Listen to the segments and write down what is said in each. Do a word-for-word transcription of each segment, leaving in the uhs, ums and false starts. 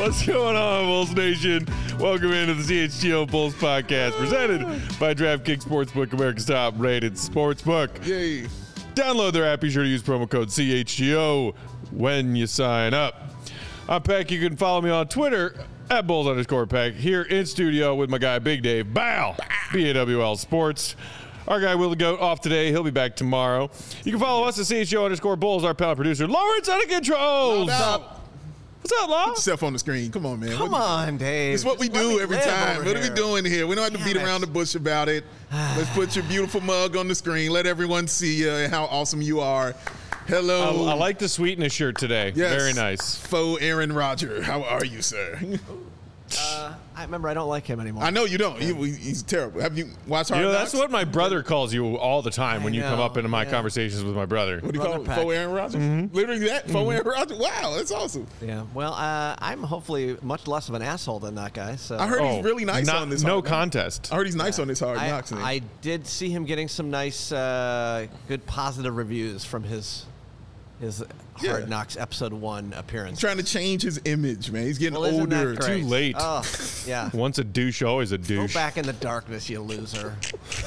What's going on, Bulls Nation? Welcome into the C H G O Bulls podcast presented by DraftKings Sportsbook, America's top-rated sportsbook. Yay. Download their app. Be sure to use promo code C H G O when you sign up. I'm Peck. You can follow me on Twitter at Bulls underscore Peck. Here in studio with my guy Big Dave Bow, B A W L Sports. Our guy Will the Goat off today. He'll be back tomorrow. You can follow us at C H G O underscore Bulls. Our panel producer Lawrence out of controls. What's up? What's up, Law? Put yourself on the screen. Come on, man. Come what on, Dave. It's what we Just do let me every live time. over What are we here. doing here? We don't have to Damn beat it. around the bush about it. Let's put your beautiful mug on the screen. Let everyone see you and how awesome you are. Hello. I, I like the sweetness shirt today. Yes. Very nice. Faux Aaron Rodgers. How are you, sir? Uh, I remember I don't like him anymore. I know you don't. He, he's terrible. Have you watched Hard You know, Knocks? that's what my brother calls you all the time when I you come know, up into my yeah. conversations with my brother. What do you Brother call it? Pack. Faux Aaron Rodgers? Mm-hmm. Literally that? Faux Aaron Rodgers? Wow, that's awesome. Yeah. Well, uh, I'm hopefully much less of an asshole than that guy. So I heard Oh, he's really nice not- on this No Hard Knocks. contest. I heard he's nice on this Hard I, Knocks thing. I did see him getting some nice, uh, good positive reviews from his his Yeah. Hard Knocks episode one appearance. trying to change his image, man. He's getting Well, isn't that older. great? Too late. Oh, yeah. Once a douche, always a Go douche. back in the darkness, you loser.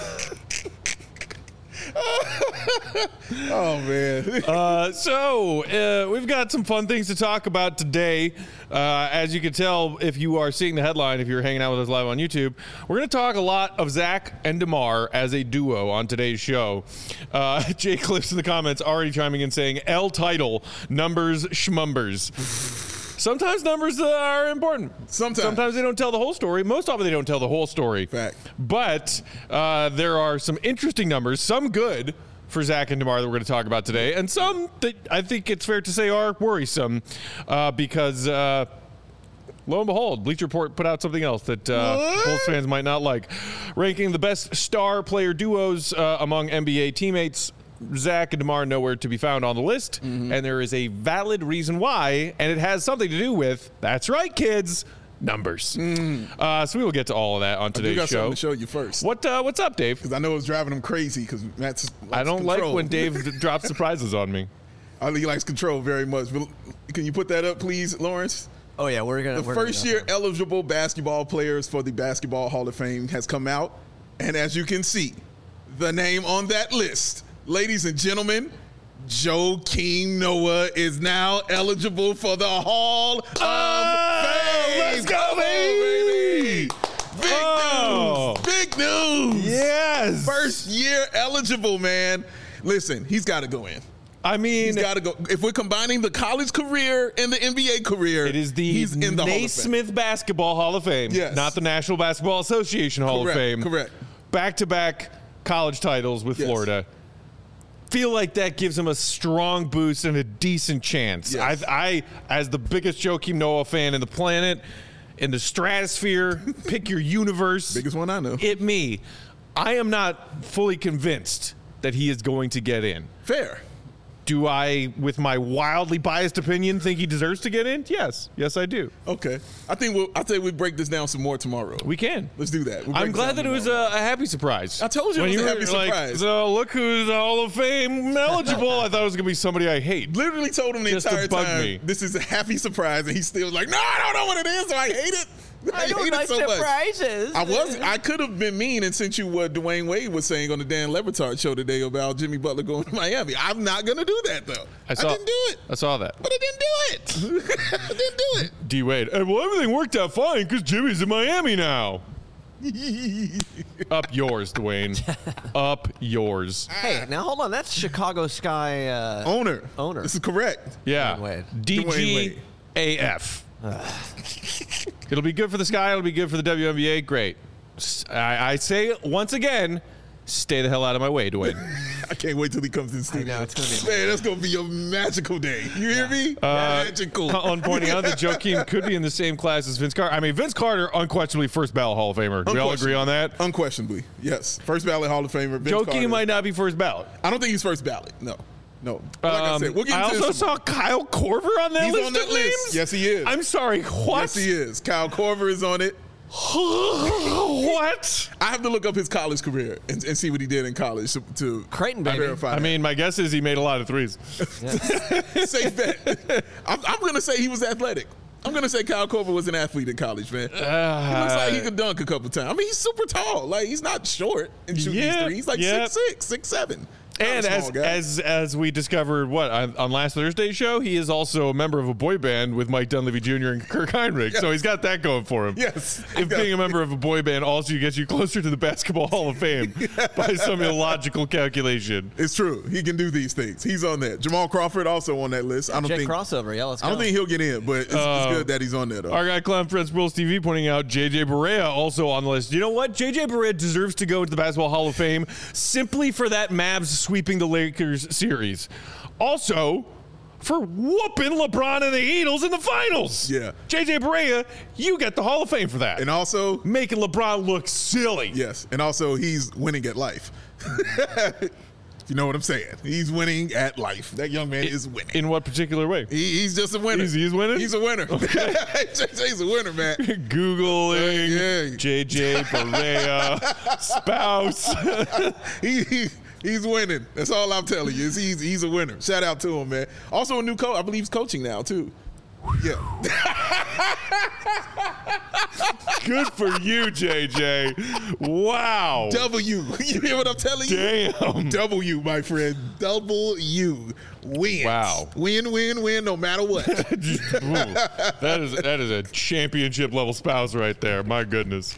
Oh, man. Uh, so, uh, we've got some fun things to talk about today. Uh, as you can tell, if you are seeing the headline, if you're hanging out with us live on YouTube, we're going to talk a lot of Zach and DeMar as a duo on today's show. Uh, Jay Cliffs in the comments already chiming in saying, L title, numbers, schmumbers. Sometimes numbers uh, are important. Sometimes. Sometimes they don't tell the whole story. Most often they don't tell the whole story. Fact. But uh, there are some interesting numbers, some good for Zach and DeMar that we're going to talk about today, and some that I think it's fair to say are worrisome uh, because, uh, lo and behold, Bleacher Report put out something else that uh, Bulls fans might not like. Ranking the best star player duos uh, among N B A teammates. Zach and DeMar nowhere to be found on the list, Mm-hmm. and there is a valid reason why, and it has something to do with, that's right, kids, numbers. Uh, so we will get to all of that on Mm. I do today's got show. something to show you first. What uh, What's up, Dave? Because I know it's driving him crazy because Matt's I don't control. like when Dave d- drops surprises on me. I think he likes control very much. But can you put that up, please, Lawrence? Oh, yeah, we're going to The first year eligible basketball players for the Basketball Hall of Fame has come out. And as you can see, the name on that list, ladies and gentlemen, Joakim Noah is now eligible for the Hall of Fame. let's go, Come on, baby. Big Oh. news. Big news. Yes. First year eligible, man. Listen, he's got to go in. I mean, He's got to go. If we're combining the college career and the N B A career, it is the, he's in the Hall of Fame. Naismith Basketball Hall of Fame, Yes. not the National Basketball Association Hall Correct, of Fame. correct. Back-to-back college titles with Yes. Florida. Feel like that gives him a strong boost and a decent chance. Yes. I, I, as the biggest Joakim Noah fan in the planet, in the stratosphere, pick your universe. Biggest one I know. It me. I am not fully convinced that he is going to get in. Fair. Do I, with my wildly biased opinion, think he deserves to get in? Yes. Yes, I do. Okay. I think we'll. I think we break this down some more tomorrow. We can. Let's do that. We'll I'm break glad down that it was tomorrow. a, a happy surprise. I told you it When was a were happy like, surprise. so look who's Hall of Fame eligible. I thought it was going to be somebody I hate. Literally told him the Just to entire bug time. me. This is a happy surprise, and he's still like, "No, I don't know what it is. So I hate it. I, I don't hate like it so much." surprises. I was. I could have been mean and sent you what Dwayne Wade was saying on the Dan Le Batard show today about Jimmy Butler going to Miami. I'm not gonna do that though. I saw. didn't do it. I saw that. But I didn't do it. I didn't do it. D Wade. Hey, well, everything worked out fine because Jimmy's in Miami now. Up yours, Dwayne. Up yours. Hey, now hold on. That's Chicago Sky uh, Owner. Owner. This is correct. Yeah. Dwayne Wade. D Dwayne G Wade. A F. It'll be good for the Sky. It'll be good for the W N B A. Great. S- I, I say once again, stay the hell out of my way, Dwayne. I can't wait till he comes in the I studio. know, it's going to be Man, that's gonna be a magical day. You hear me? Uh, magical. On pointing out that Joakim could be in the same class as Vince Carter. I mean, Vince Carter, unquestionably first ballot Hall of Famer. Do we all agree on that? Unquestionably, yes. First ballot Hall of Famer. Vince Joakim Carter. might not be first ballot. I don't think he's first ballot. No, no. But like I Um, said, we'll get I into also this saw Kyle Korver on that He's list on that of list. names. Yes, he is. I'm sorry. What? Yes, he is. Kyle Korver is on it. What? I have to look up his college career and, and see what he did in college to, to Creighton, baby. verify. I mean, my guess is he made a lot of threes. that. Safe bet. I'm, I'm going to say he was athletic. I'm gonna say Kyle Korver was an athlete in college, man. Uh, he looks like he could dunk a couple times. I mean, he's super tall. Like he's not short and shooting Yeah, these threes. He's like yeah. six six, six seven. And as as as we discovered, what on, on last Thursday's show, he is also a member of a boy band with Mike Dunleavy Junior and Kirk Heinrich. Yes. So he's got that going for him. Yes. If being a member of a boy band also gets you closer to the Basketball Hall of Fame by some illogical calculation. It's true. He can do these things. He's on that. Jamal Crawford also on that list. I don't Jake think crossover. Yeah, let's go. I don't think he'll get in, but it's, Uh, it's good that he's on there though. Our guy Clown Friends Bulls T V pointing out J J Barea also on the list. You know what? J J Barea deserves to go to the Basketball Hall of Fame simply for that Mavs sweeping the Lakers series. Also, for whooping LeBron and the Eagles in the finals. Yeah. J J Barea, you get the Hall of Fame for that. And also, making LeBron look silly. yes, and also he's winning at life. You know what I'm saying? He's winning at life. That young man is winning. In what particular way? He, he's just a winner. He's- he's winning? He's a winner. J J's a winner, man. Googling Yeah. J J Barea spouse. he, he he's winning. That's all I'm telling you. Is he's he's a winner. Shout out to him, man. Also a new coach. I believe he's coaching now too. Yeah. Good for you, J J. Wow. W. You hear what I'm telling you? Damn. W, my friend. W. Wins. Wow. Win, win, win, no matter what. Ooh, that is that is a championship level spouse right there. My goodness.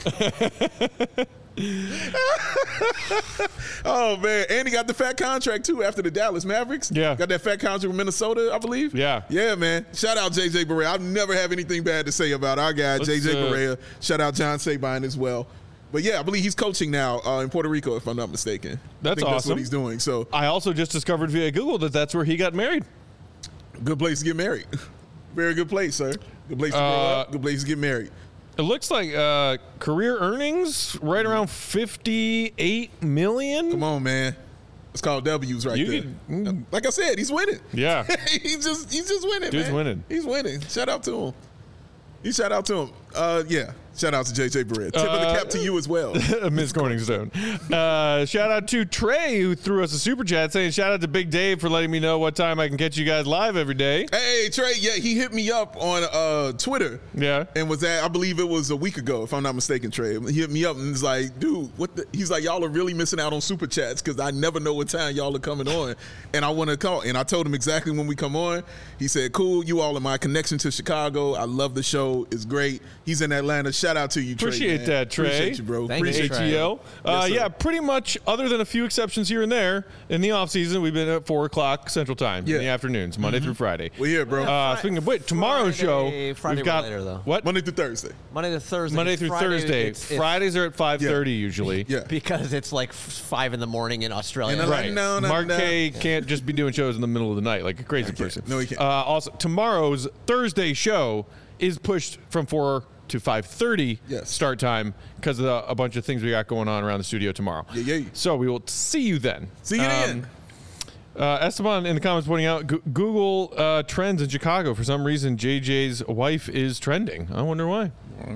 Oh man, and he got the fat contract too after the Dallas Mavericks. Yeah. Got that fat contract with Minnesota, I believe. Yeah. Yeah, man. Shout out J J Barea. I never have anything bad to say about our guy, Let's, J J uh, Barea. Shout out John Sabine as well. But yeah, I believe he's coaching now uh, in Puerto Rico, if I'm not mistaken. That's I think That's awesome. what he's doing. So I also just discovered via Google that that's where he got married. good place to get married. Very good place, sir. Good place to grow Uh, up. Good place to get married. It looks like uh, career earnings right around fifty-eight million. Come on, man. It's called W's right You there. can- Like I said, he's winning. Yeah. he's just he's just winning. Dude's man. winning. He's winning. Shout out to him. You shout out to him. Uh, yeah. Shout out to J J Barea. Tip of the Uh, cap to you as well. Miss Corningstone. Uh, shout out to Trey, who threw us a super chat saying, shout out to Big Dave for letting me know what time I can catch you guys live every day. Hey Trey, yeah, he hit me up on uh, Twitter. Yeah. And was that I believe it was a week ago, if I'm not mistaken, Trey. He hit me up and was like, dude, what the he's like, y'all are really missing out on super chats because I never know what time y'all are coming on. And I want to call. And I told him exactly when we come on. He said, cool, you all are my connection to Chicago. I love the show. It's great. He's in Atlanta. Shout out to you, Trey. Appreciate man. that, Trey. Appreciate you, bro. Thank you, Appreciate Trey. A T L. Uh, Yes, sir. yeah, pretty much, other than a few exceptions here and there, in the off season, we've been at four o'clock Central Time Yeah. in the afternoons, Monday through Friday. We're here, bro. Uh, speaking of which, tomorrow's Friday- show, Friday we've got later, though. what? Monday through Thursday. Monday to Thursday. Monday through Friday, Thursday. it's- it's- Fridays are at five thirty usually. Yeah. because it's like f- five in the morning in Australia. And I- Right. No, no, Mark no. K can't just be doing shows in the middle of the night like a crazy person. No, he can't. Uh, also, tomorrow's Thursday show is pushed from four to five thirty Yes. start time because of the, a bunch of things we got going on around the studio tomorrow. Yeah, yeah. So we will see you then. See you then. Uh, Esteban in the comments pointing out Go- Google uh, trends in Chicago. For some reason, J J's wife is trending. I wonder why.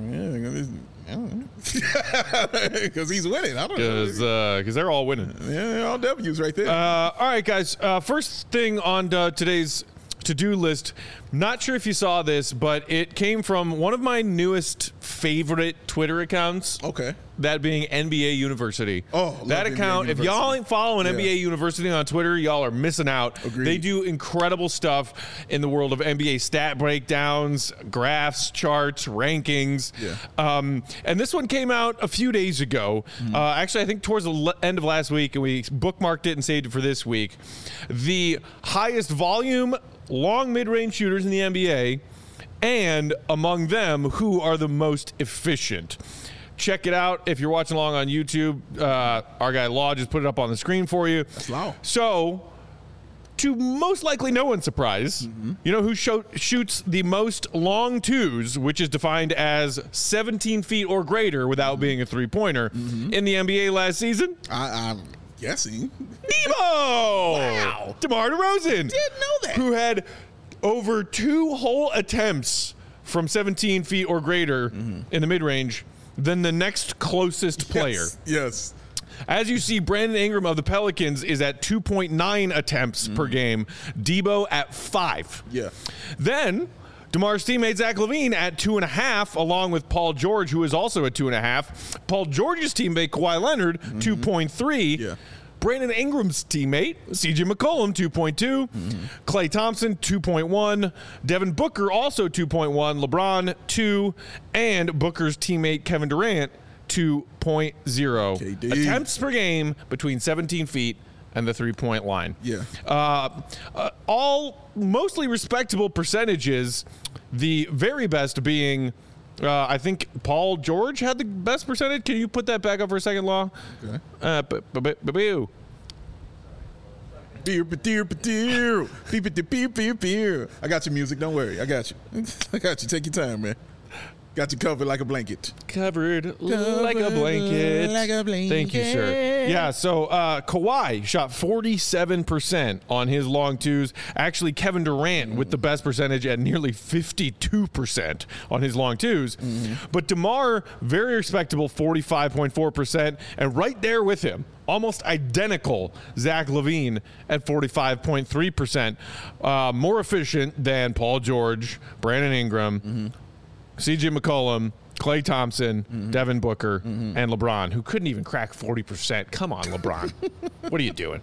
Because he's winning. I don't know. Because uh, they're all winning. Yeah, all W's right there. Uh, all right, guys. Uh, first thing on uh, today's to-do list. Not sure if you saw this, but it came from one of my newest favorite Twitter accounts. Okay. That being N B A University. Oh, love that N B A account. If y'all University. ain't following N B A Yeah. University on Twitter, y'all are missing out. Agreed. They do incredible stuff in the world of N B A stat breakdowns, graphs, charts, rankings. Yeah. Um, and this one came out a few days ago. Mm-hmm. Uh, actually, I think towards the le- end of last week, and we bookmarked it and saved it for this week. The highest volume long mid-range shooters in the N B A, and among them, who are the most efficient. Check it out if you're watching along on YouTube. Uh, our guy Law just put it up on the screen for you. That's Law. So, to most likely no one's surprise, Mm-hmm. you know who sho- shoots the most long twos, which is defined as seventeen feet or greater without being a three-pointer, Mm-hmm. in the N B A last season? I, I'm guessing. Debo! Wow. DeMar DeRozan. Didn't know that. Who had over two whole attempts from seventeen feet or greater Mm-hmm. in the mid-range than the next closest player. Yes. yes. As you see, Brandon Ingram of the Pelicans is at two point nine attempts per game. Debo at five. Yeah. Then DeMar's teammate Zach LaVine at two and a half, along with Paul George, who is also at two and a half. Paul George's teammate Kawhi Leonard, mm-hmm. two point three. Yeah. Brandon Ingram's teammate, C J McCollum, two point two. Mm-hmm. Klay Thompson, two point one. Devin Booker, also two point one. LeBron, two. And Booker's teammate, Kevin Durant, two point oh. K D. Attempts per game between seventeen feet and the three-point line. Yeah. Uh, uh, all mostly respectable percentages, the very best being... Uh, I think Paul George had the best percentage. Can you put that back up for a second, Law? Okay. Uh, b- b- b- b- b- Beer, beer, beer, beer, beer, beer. I got your music. Don't worry. I got you. I got you. Take your time, man. Got you covered like a blanket. Covered, like a blanket. Like a blanket. Thank you, sir. Yeah, so uh, Kawhi shot forty-seven percent on his long twos. Actually, Kevin Durant mm. with the best percentage at nearly fifty-two percent on his long twos. Mm-hmm. But DeMar, very respectable, forty-five point four percent. And right there with him, almost identical, Zach LaVine at forty-five point three percent. Uh, more efficient than Paul George, Brandon Ingram, mm-hmm. C J McCollum, Klay Thompson, mm-hmm. Devin Booker, mm-hmm. and LeBron, who couldn't even crack forty percent. Come on, LeBron. What are you doing?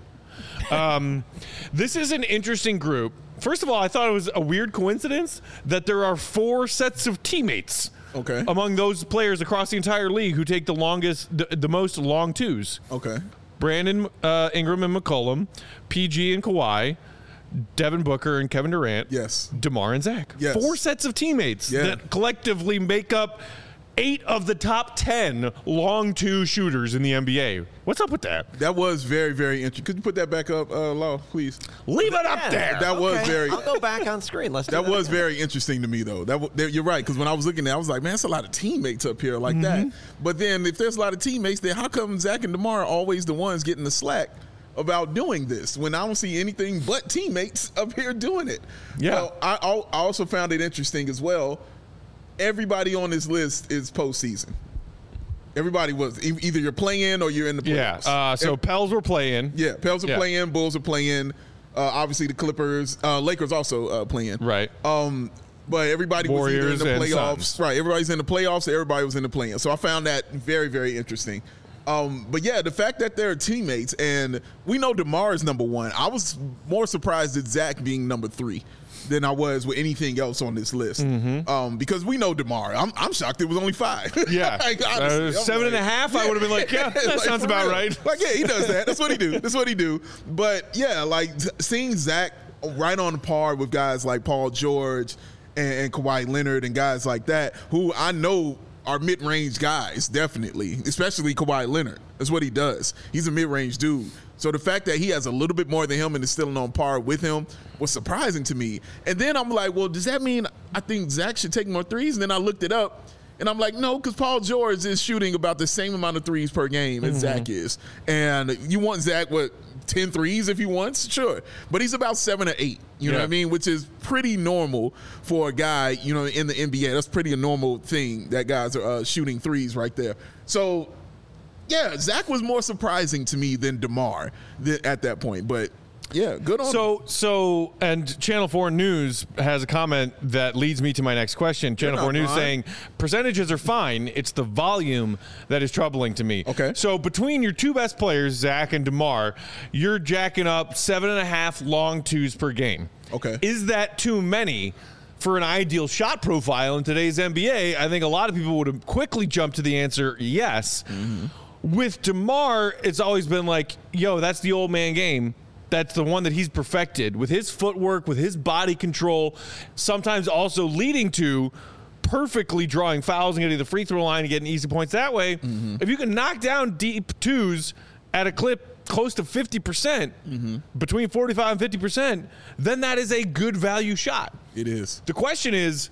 Um, this is an interesting group. First of all, I thought it was a weird coincidence that there are four sets of teammates okay. among those players across the entire league who take the longest, the, the most long twos. Okay. Brandon uh, Ingram and McCollum, P G and Kawhi, Devin Booker and Kevin Durant. Yes. DeMar and Zach. Yes. Four sets of teammates yeah. that collectively make up eight of the top ten long two shooters in the N B A. What's up with that? That was very, very interesting. Could you put that back up, uh, Law, please? Leave it yeah, up there. That okay. was very. I'll go back on screen. Let's. Do that, that was again. very interesting to me, though. That, w- that you're right, because when I was looking at it, I was like, man, that's a lot of teammates up here like Mm-hmm. that. But then, if there's a lot of teammates, then how come Zach and DeMar are always the ones getting the slack about doing this when I don't see anything but teammates up here doing it? Yeah. Well, I, I also found it interesting as well. Everybody on this list is postseason. Everybody was e- either you're playing or you're in the playoffs. Yeah. Uh, so Every, Pels were playing. yeah, Pels are Yeah. playing, Bulls are playing. Uh, obviously, the Clippers, uh, Lakers also uh, playing. Right. Um, but everybody Warriors was either in the and playoffs. Suns. Right. Everybody's in the playoffs. So everybody was in the play-in. So I found that very, very interesting. Um, but yeah, the fact that they're teammates, and we know DeMar is number one. I was more surprised at Zach being number three than I was with anything else on this list. Mm-hmm. Um, because we know DeMar. I'm, I'm shocked it was only five. Yeah. like, uh, honestly, seven like, and a half, yeah. I would have been like, yeah, that Like, sounds for about real. right. Like, yeah, he does that. That's what he do. That's what he do. But yeah, like seeing Zach right on par with guys like Paul George and, and Kawhi Leonard and guys like that, who I know are mid-range guys, definitely, especially Kawhi Leonard. That's what he does. He's a mid-range dude. So the fact that he has a little bit more than him and is still on par with him was surprising to me. And then I'm like, well, does that mean I think Zach should take more threes? And then I looked it up, and I'm like, no, because Paul George is shooting about the same amount of threes per game as mm-hmm. Zach is. And you want Zach, what, ten threes if he wants? Sure. But he's about seven or eight, you yeah. know what I mean? Which is pretty normal for a guy, you know, in the N B A. That's pretty a normal thing that guys are uh, shooting threes right there. So, yeah, Zach was more surprising to me than DeMar th- at that point. But, yeah, good on So, so, and Channel four News has a comment that leads me to my next question. Channel four News fine. saying, percentages are fine. It's the volume that is troubling to me. Okay. So between your two best players, Zach and DeMar, you're jacking up seven and a half long twos per game. Okay. Is that too many for an ideal shot profile in today's N B A? I think a lot of people would have quickly jumped to the answer, yes. Mm-hmm. With DeMar, it's always been like, yo, that's the old man game. That's the one that he's perfected with his footwork, with his body control, sometimes also leading to perfectly drawing fouls and getting the free throw line and getting easy points that way. Mm-hmm. If you can knock down deep twos at a clip close to fifty percent, mm-hmm. between forty-five and fifty percent, then that is a good value shot. It is. The question is,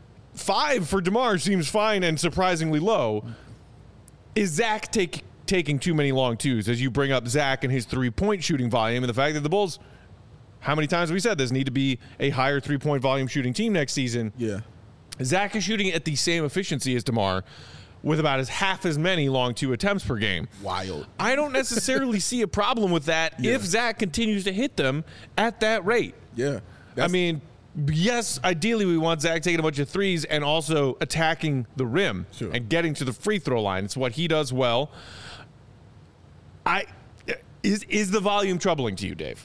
five for DeMar seems fine and surprisingly low. Is Zach take, taking too many long twos as you bring up Zach and his three-point shooting volume and the fact that the Bulls, how many times have we said this, need to be a higher three-point volume shooting team next season? Yeah. Zach is shooting at the same efficiency as DeMar with about as half as many long two attempts per game. Wild. I don't necessarily see a problem with that yeah. if Zach continues to hit them at that rate. Yeah. I mean, yes, ideally we want Zach taking a bunch of threes and also attacking the rim Sure. and getting to the free throw line. It's what he does well. I is is the volume troubling to you, Dave?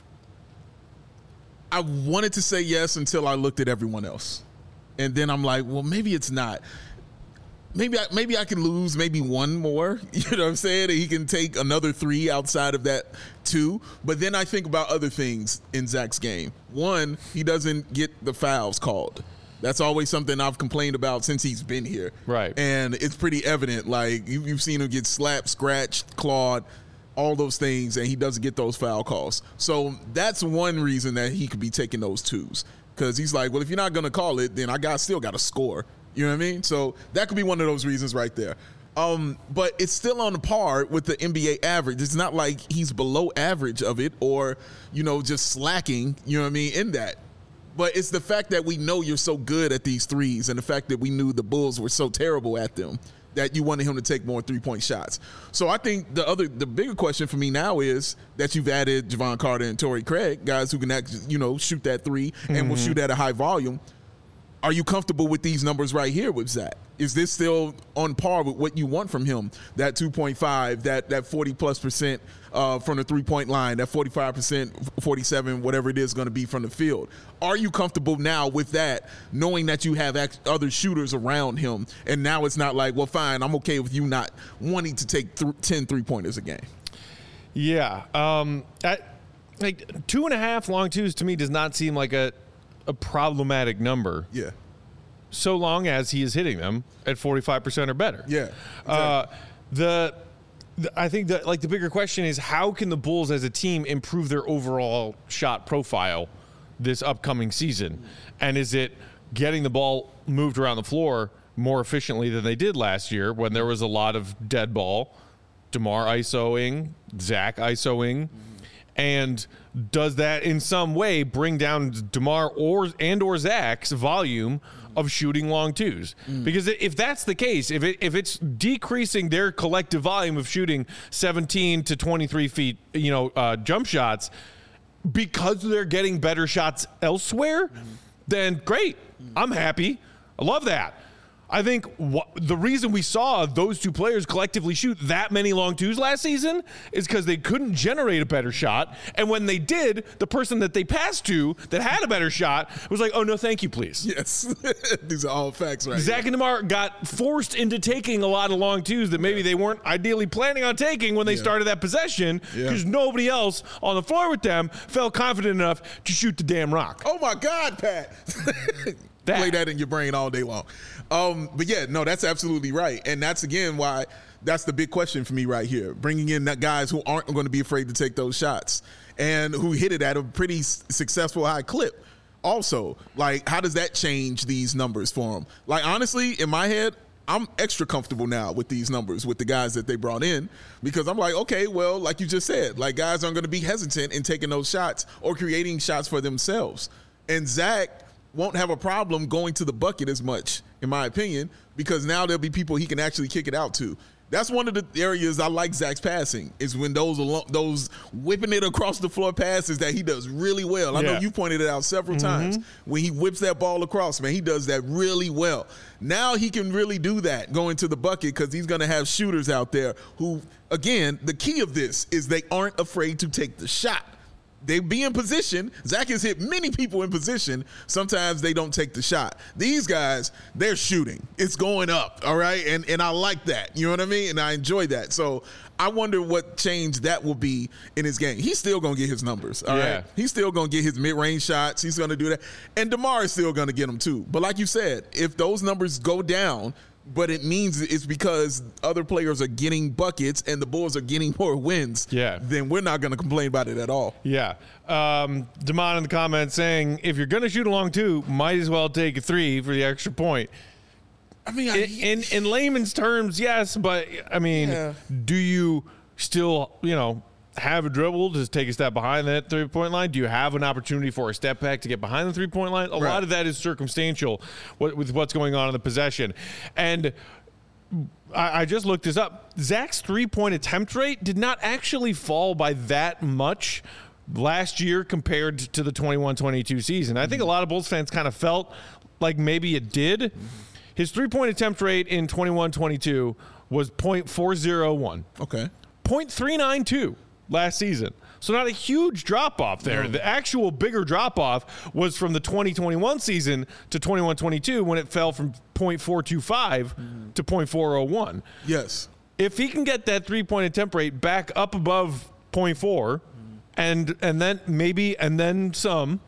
I wanted to say yes until I looked at everyone else. And then I'm like, well, maybe it's not. Maybe I, maybe I can lose maybe one more, you know what I'm saying? He can take another three outside of that two. But then I think about other things in Zach's game. One, he doesn't get the fouls called. That's always something I've complained about since he's been here. Right. And it's pretty evident. Like, you, you've seen him get slapped, scratched, clawed, all those things, and he doesn't get those foul calls. So that's one reason that he could be taking those twos. Because he's like, well, if you're not going to call it, then I got still got to score. You know what I mean? So that could be one of those reasons right there. Um, but it's still on par with the N B A average. It's not like he's below average of it or, you know, just slacking, you know what I mean, in that. But it's the fact that we know you're so good at these threes and the fact that we knew the Bulls were so terrible at them that you wanted him to take more three-point shots. So I think the other, the bigger question for me now is that you've added Javon Carter and Torrey Craig, guys who can actually, you know, shoot that three and mm-hmm. will shoot at a high volume. Are you comfortable with these numbers right here with Zach? Is this still on par with what you want from him? That two point five, that that forty plus percent uh, from the three-point line, that forty-five percent, forty-seven, whatever it is going to be from the field. Are you comfortable now with that, knowing that you have other shooters around him, and now it's not like, well, fine, I'm okay with you not wanting to take th- ten three-pointers a game? Yeah. Um, I, like two and a half long twos to me does not seem like a a problematic number. Yeah. So long as he is hitting them at forty-five percent or better. Yeah. Exactly. Uh, the, the I think that like the bigger question is how can the Bulls as a team improve their overall shot profile this upcoming season? And is it getting the ball moved around the floor more efficiently than they did last year when there was a lot of dead ball, DeMar ISOing, Zach ISOing, and does that in some way bring down DeMar or and or Zach's volume of shooting long twos? Mm. Because if that's the case, if it if it's decreasing their collective volume of shooting seventeen to twenty-three feet, you know, uh, jump shots because they're getting better shots elsewhere, mm. then great. Mm. I'm happy. I love that. I think wh- the reason we saw those two players collectively shoot that many long twos last season is because they couldn't generate a better shot. And when they did, the person that they passed to that had a better shot was like, oh, no, thank you, please. Yes. These are all facts right Zach here. and DeMar got forced into taking a lot of long twos that maybe yeah. they weren't ideally planning on taking when they yeah. started that possession because yeah. nobody else on the floor with them felt confident enough to shoot the damn rock. Oh, my God, Pat. That. Play that in your brain all day long. Um, but yeah, no, that's absolutely right. And that's, again, why that's the big question for me right here. Bringing in that guys who aren't going to be afraid to take those shots and who hit it at a pretty successful high clip. Also, like, how does that change these numbers for them? Like, honestly, in my head, I'm extra comfortable now with these numbers with the guys that they brought in because I'm like, okay, well, like you just said, like guys aren't going to be hesitant in taking those shots or creating shots for themselves. And Zach won't have a problem going to the bucket as much, in my opinion, because now there'll be people he can actually kick it out to. That's one of the areas I like Zach's passing is when those those whipping it across the floor passes that he does really well. I yeah. know you pointed it out several mm-hmm. times. When he whips that ball across, man, he does that really well. Now he can really do that going to the bucket because he's going to have shooters out there who, again, the key of this is they aren't afraid to take the shot. They be in position. Zach has hit many people in position. Sometimes they don't take the shot. These guys, they're shooting. It's going up, all right? And and I like that. You know what I mean? And I enjoy that. So I wonder what change that will be in his game. He's still going to get his numbers, all yeah. right? He's still going to get his mid-range shots. He's going to do that. And DeMar is still going to get them too. But like you said, if those numbers go down, but it means it's because other players are getting buckets and the Bulls are getting more wins, yeah. then we're not going to complain about it at all. Yeah. Um, Damon in the comments saying, if you're going to shoot a long two, might as well take a three for the extra point. I mean, I, in, in, in layman's terms, yes, but, I mean, yeah. do you still, you know, have a dribble to take a step behind that three-point line? Do you have an opportunity for a step back to get behind the three-point line? A right. lot of that is circumstantial with what's going on in the possession. And I, I just looked this up. Zach's three-point attempt rate did not actually fall by that much last year compared to the twenty-one twenty-two season. I think a lot of Bulls fans kind of felt like maybe it did. His three-point attempt rate in twenty-one twenty-two was point four oh one. Okay. point three nine two last season. So not a huge drop-off there. No. The actual bigger drop-off was from the twenty twenty-one season to twenty-one twenty-two when it fell from point four two five mm-hmm. to point four oh one. Yes. If he can get that three-point attempt rate back up above point four, mm-hmm. and and then maybe and then some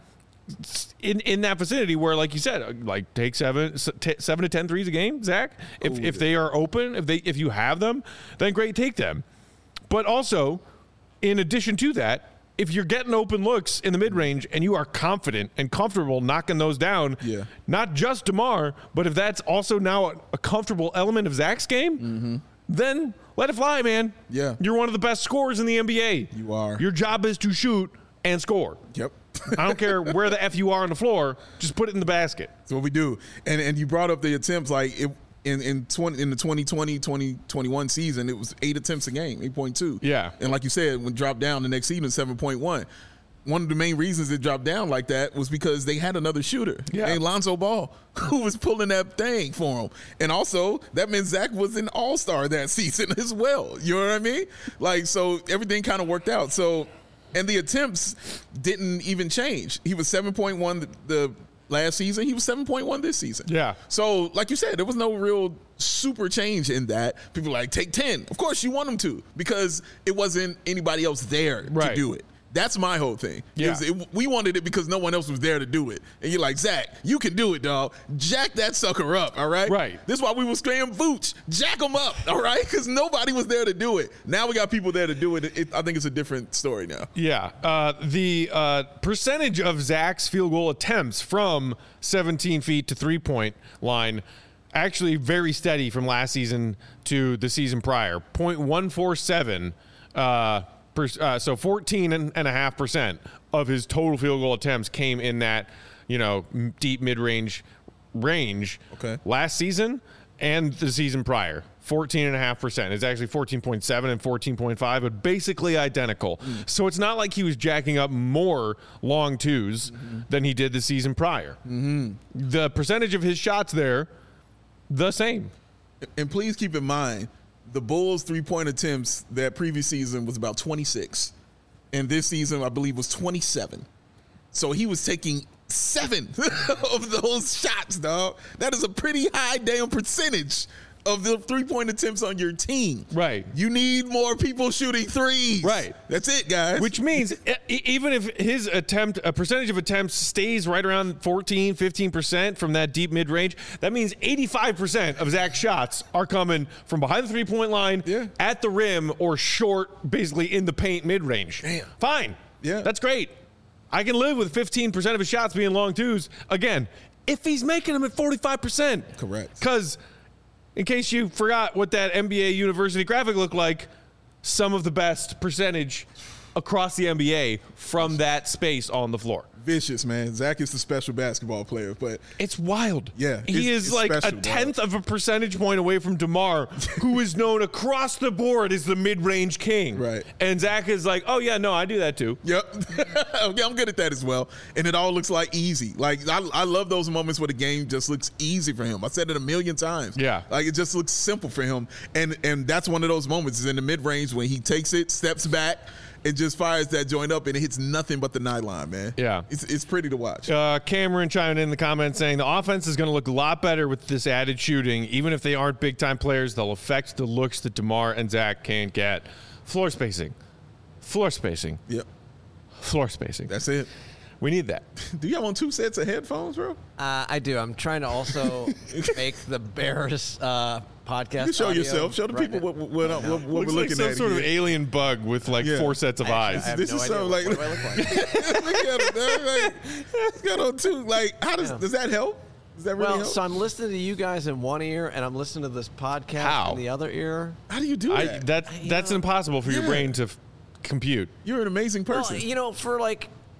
in in that vicinity where, like you said, like take seven t- seven to ten threes a game, Zach. If Ooh, if yeah. they are open, if they if you have them, then great, take them. But also, in addition to that, if you're getting open looks in the mid-range and you are confident and comfortable knocking those down, yeah. not just DeMar, but if that's also now a, a comfortable element of Zach's game, mm-hmm. then let it fly, man. Yeah. You're one of the best scorers in the N B A. You are. Your job is to shoot and score. Yep. I don't care where the F you are on the floor, just put it in the basket. That's what we do. And and you brought up the attempts, like it, in in twenty in the twenty twenty twenty twenty-one season, it was eight attempts a game, eight point two. Yeah. And like you said, when it dropped down the next season, seven point one. One of the main reasons it dropped down like that was because they had another shooter, yeah. named Lonzo Ball, who was pulling that thing for him. And also, that meant Zach was an all-star that season as well. You know what I mean? Like, so everything kind of worked out. So, and the attempts didn't even change. He was seven point one the, the last season. He was seven point one this season. Yeah. So, like you said, there was no real super change in that. People are like, take ten. Of course, you want them to because it wasn't anybody else there right. to do it. That's my whole thing. Yeah. It, we wanted it because no one else was there to do it. And you're like, Zach, you can do it, dog. Jack that sucker up, all right? Right. This is why we were screaming Vooch. Jack them up, all right? Because nobody was there to do it. Now we got people there to do it. it I think it's a different story now. Yeah. Uh, the uh, percentage of Zach's field goal attempts from seventeen feet to three-point line actually very steady from last season to the season prior. point one four seven uh Uh, so fourteen and a half percent of his total field goal attempts came in that, you know, deep mid-range range. Okay. Last season and the season prior, fourteen and a half percent. It's actually fourteen point seven and fourteen point five, but basically identical. Mm. So it's not like he was jacking up more long twos mm-hmm. than he did the season prior. Mm-hmm. The percentage of his shots there, the same. And please keep in mind, the Bulls' three-point attempts that previous season was about twenty-six. And this season, I believe, was twenty-seven. So he was taking seven of those shots, dog. That is a pretty high damn percentage of the three-point attempts on your team. Right. You need more people shooting threes. Right. That's it, guys. Which means e- even if his attempt, a percentage of attempts stays right around fourteen, fifteen percent from that deep mid-range, that means eighty-five percent of Zach's shots are coming from behind the three-point line, yeah. at the rim, or short, basically in the paint mid-range. Damn. Fine. Yeah. That's great. I can live with fifteen percent of his shots being long twos. Again, if he's making them at forty-five percent. Correct. Because in case you forgot what that N B A University graphic looked like, some of the best percentage across the N B A from that space on the floor. Vicious, man. Zach is the special basketball player, but it's wild. Yeah, he it's, is it's like special, a tenth bro. of a percentage point away from DeMar, who is known across the board as the mid-range king. Right. And Zach is like, oh yeah, no, I do that too. Yep. Okay, I'm good at that as well. And it all looks like easy. Like, I, I love those moments where the game just looks easy for him. I said it a million times. Yeah. Like, it just looks simple for him. And and that's one of those moments is in the mid-range when he takes it, steps back, and just fires that joint up, and it hits nothing but the nylon, man. Yeah. It's, it's pretty to watch. Uh, Cameron chiming in the comments saying the offense is going to look a lot better with this added shooting. Even if they aren't big-time players, they'll affect the looks that DeMar and Zach can't get. Floor spacing. Floor spacing. Yep. Floor spacing. That's it. We need that. Do you have on two sets of headphones, bro? Uh, I do. I'm trying to also make the Bears uh, podcast. You show audio yourself. Show the right people now. what, what, what, what, what we're Looks looking like some at sort here. of alien bug with like Yeah. four sets of Actually, eyes. I have This no is idea. so What- like- what do I look like? Look at him, man. Like, he's got on two. Like, how does Yeah. does that help? Does that really Well, help? so I'm listening to you guys in one ear, and I'm listening to this podcast How? in the other ear. How do you do I, that? that You that's know, impossible for your yeah. brain to f- compute. You're an amazing person. Well, you know, for like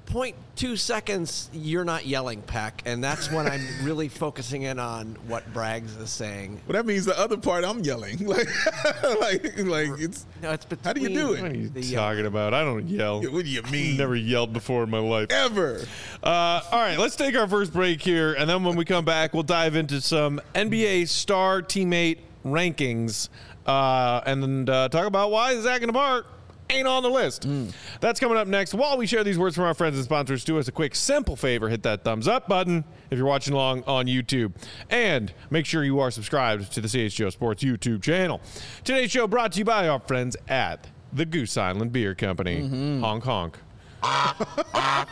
point two seconds, you're not yelling, Peck, and that's when I'm really focusing in on what Braggs is saying. Well, that means the other part I'm yelling. Like, like, like it's. No, it's How do you do it? What are you The, uh, talking about? I don't yell. What do you mean? Never yelled before in my life. Ever. Uh, all right, let's take our first break here, and then when we come back, we'll dive into some N B A star teammate rankings, uh, and then uh, talk about why Zach and DeMar ain't on the list. Mm. That's coming up next. While we share these words from our friends and sponsors, do us a quick, simple favor. Hit that thumbs up button if you're watching along on YouTube. And make sure you are subscribed to the C H G O Sports YouTube channel. Today's show brought to you by our friends at the Goose Island Beer Company. Mm-hmm. Honk, honk.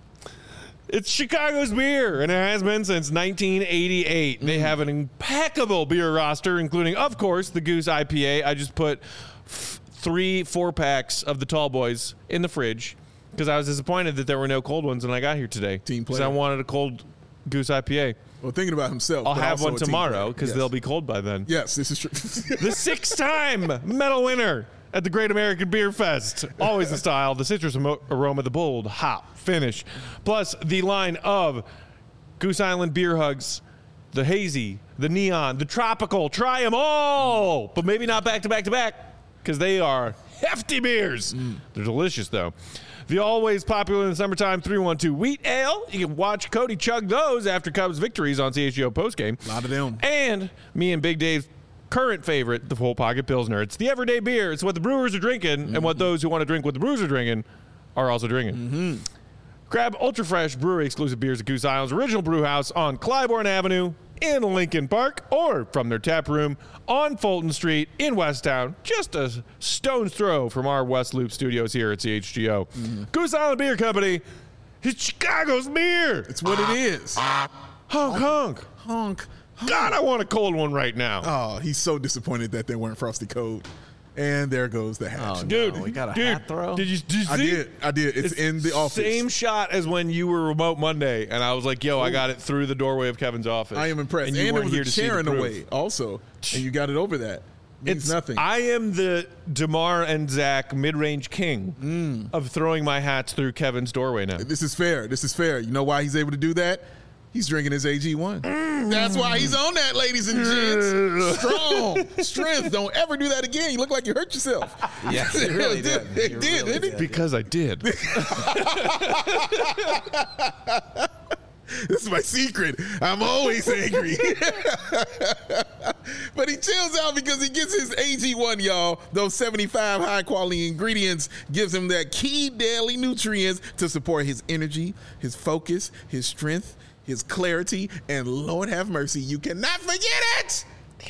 It's Chicago's beer, and it has been since nineteen eighty-eight. Mm. They have an impeccable beer roster, including, of course, the Goose I P A. I just put f- three four packs of the Tall Boys in the fridge because I was disappointed that there were no cold ones when I got here today. Team player. Because I wanted a cold Goose I P A. Well, thinking about himself. I'll but have also one a team tomorrow player. because Yes. they'll be cold by then. Yes, this is true. The six-time medal winner at the Great American Beer Fest. Always the style, the citrus amo- aroma, the bold hop finish. Plus the line of Goose Island beer hugs, the hazy, the neon, the tropical. Try them all, but maybe not back to back to back because they are hefty beers. Mm. They're delicious, though. The always popular in the summertime three one two Wheat Ale. You can watch Cody chug those after Cubs victories on C H G O postgame. A lot of them. And me and Big Dave's current favorite, the Full Pocket Pilsner. It's the everyday beer. It's what the brewers are drinking, mm-hmm. and what those who want to drink what the brewers are drinking are also drinking. Mm-hmm. Grab Ultra Fresh brewery exclusive beers at Goose Island's original brew house on Clybourne Avenue in Lincoln Park, or from their tap room on Fulton Street in Westtown, just a stone's throw from our West Loop studios here at C H G O. Mm-hmm. Goose Island Beer Company, it's Chicago's beer. It's what it is. Honk, honk. Honk. God, I want a cold one right now. Oh, he's so disappointed that they weren't Frosty Cold. And there goes the hat. Oh, dude, no, we got a dude, hat throw. Did you, did you see? I did. I did. It's, it's in the office. Same shot as when you were remote Monday, and I was like, "Yo, Ooh. I got it through the doorway of Kevin's office." I am impressed. And, and you there weren't was here a to see chair the in the proof. way also, and you got it over that. Means It's nothing. I am the DeMar and Zach mid-range king mm. of throwing my hats through Kevin's doorway now. This is fair. This is fair. You know why he's able to do that? He's drinking his A G one. Mm. That's why he's on that, ladies and gents. Strong. Strength. Don't ever do that again. You look like you hurt yourself. Yes, you really did. It You did, really didn't it? did. Because I did. This is my secret. I'm always angry. But he chills out because he gets his A G one, y'all. Those seventy-five high-quality ingredients gives him that key daily nutrients to support his energy, his focus, his strength, his clarity, and Lord have mercy, you cannot forget it.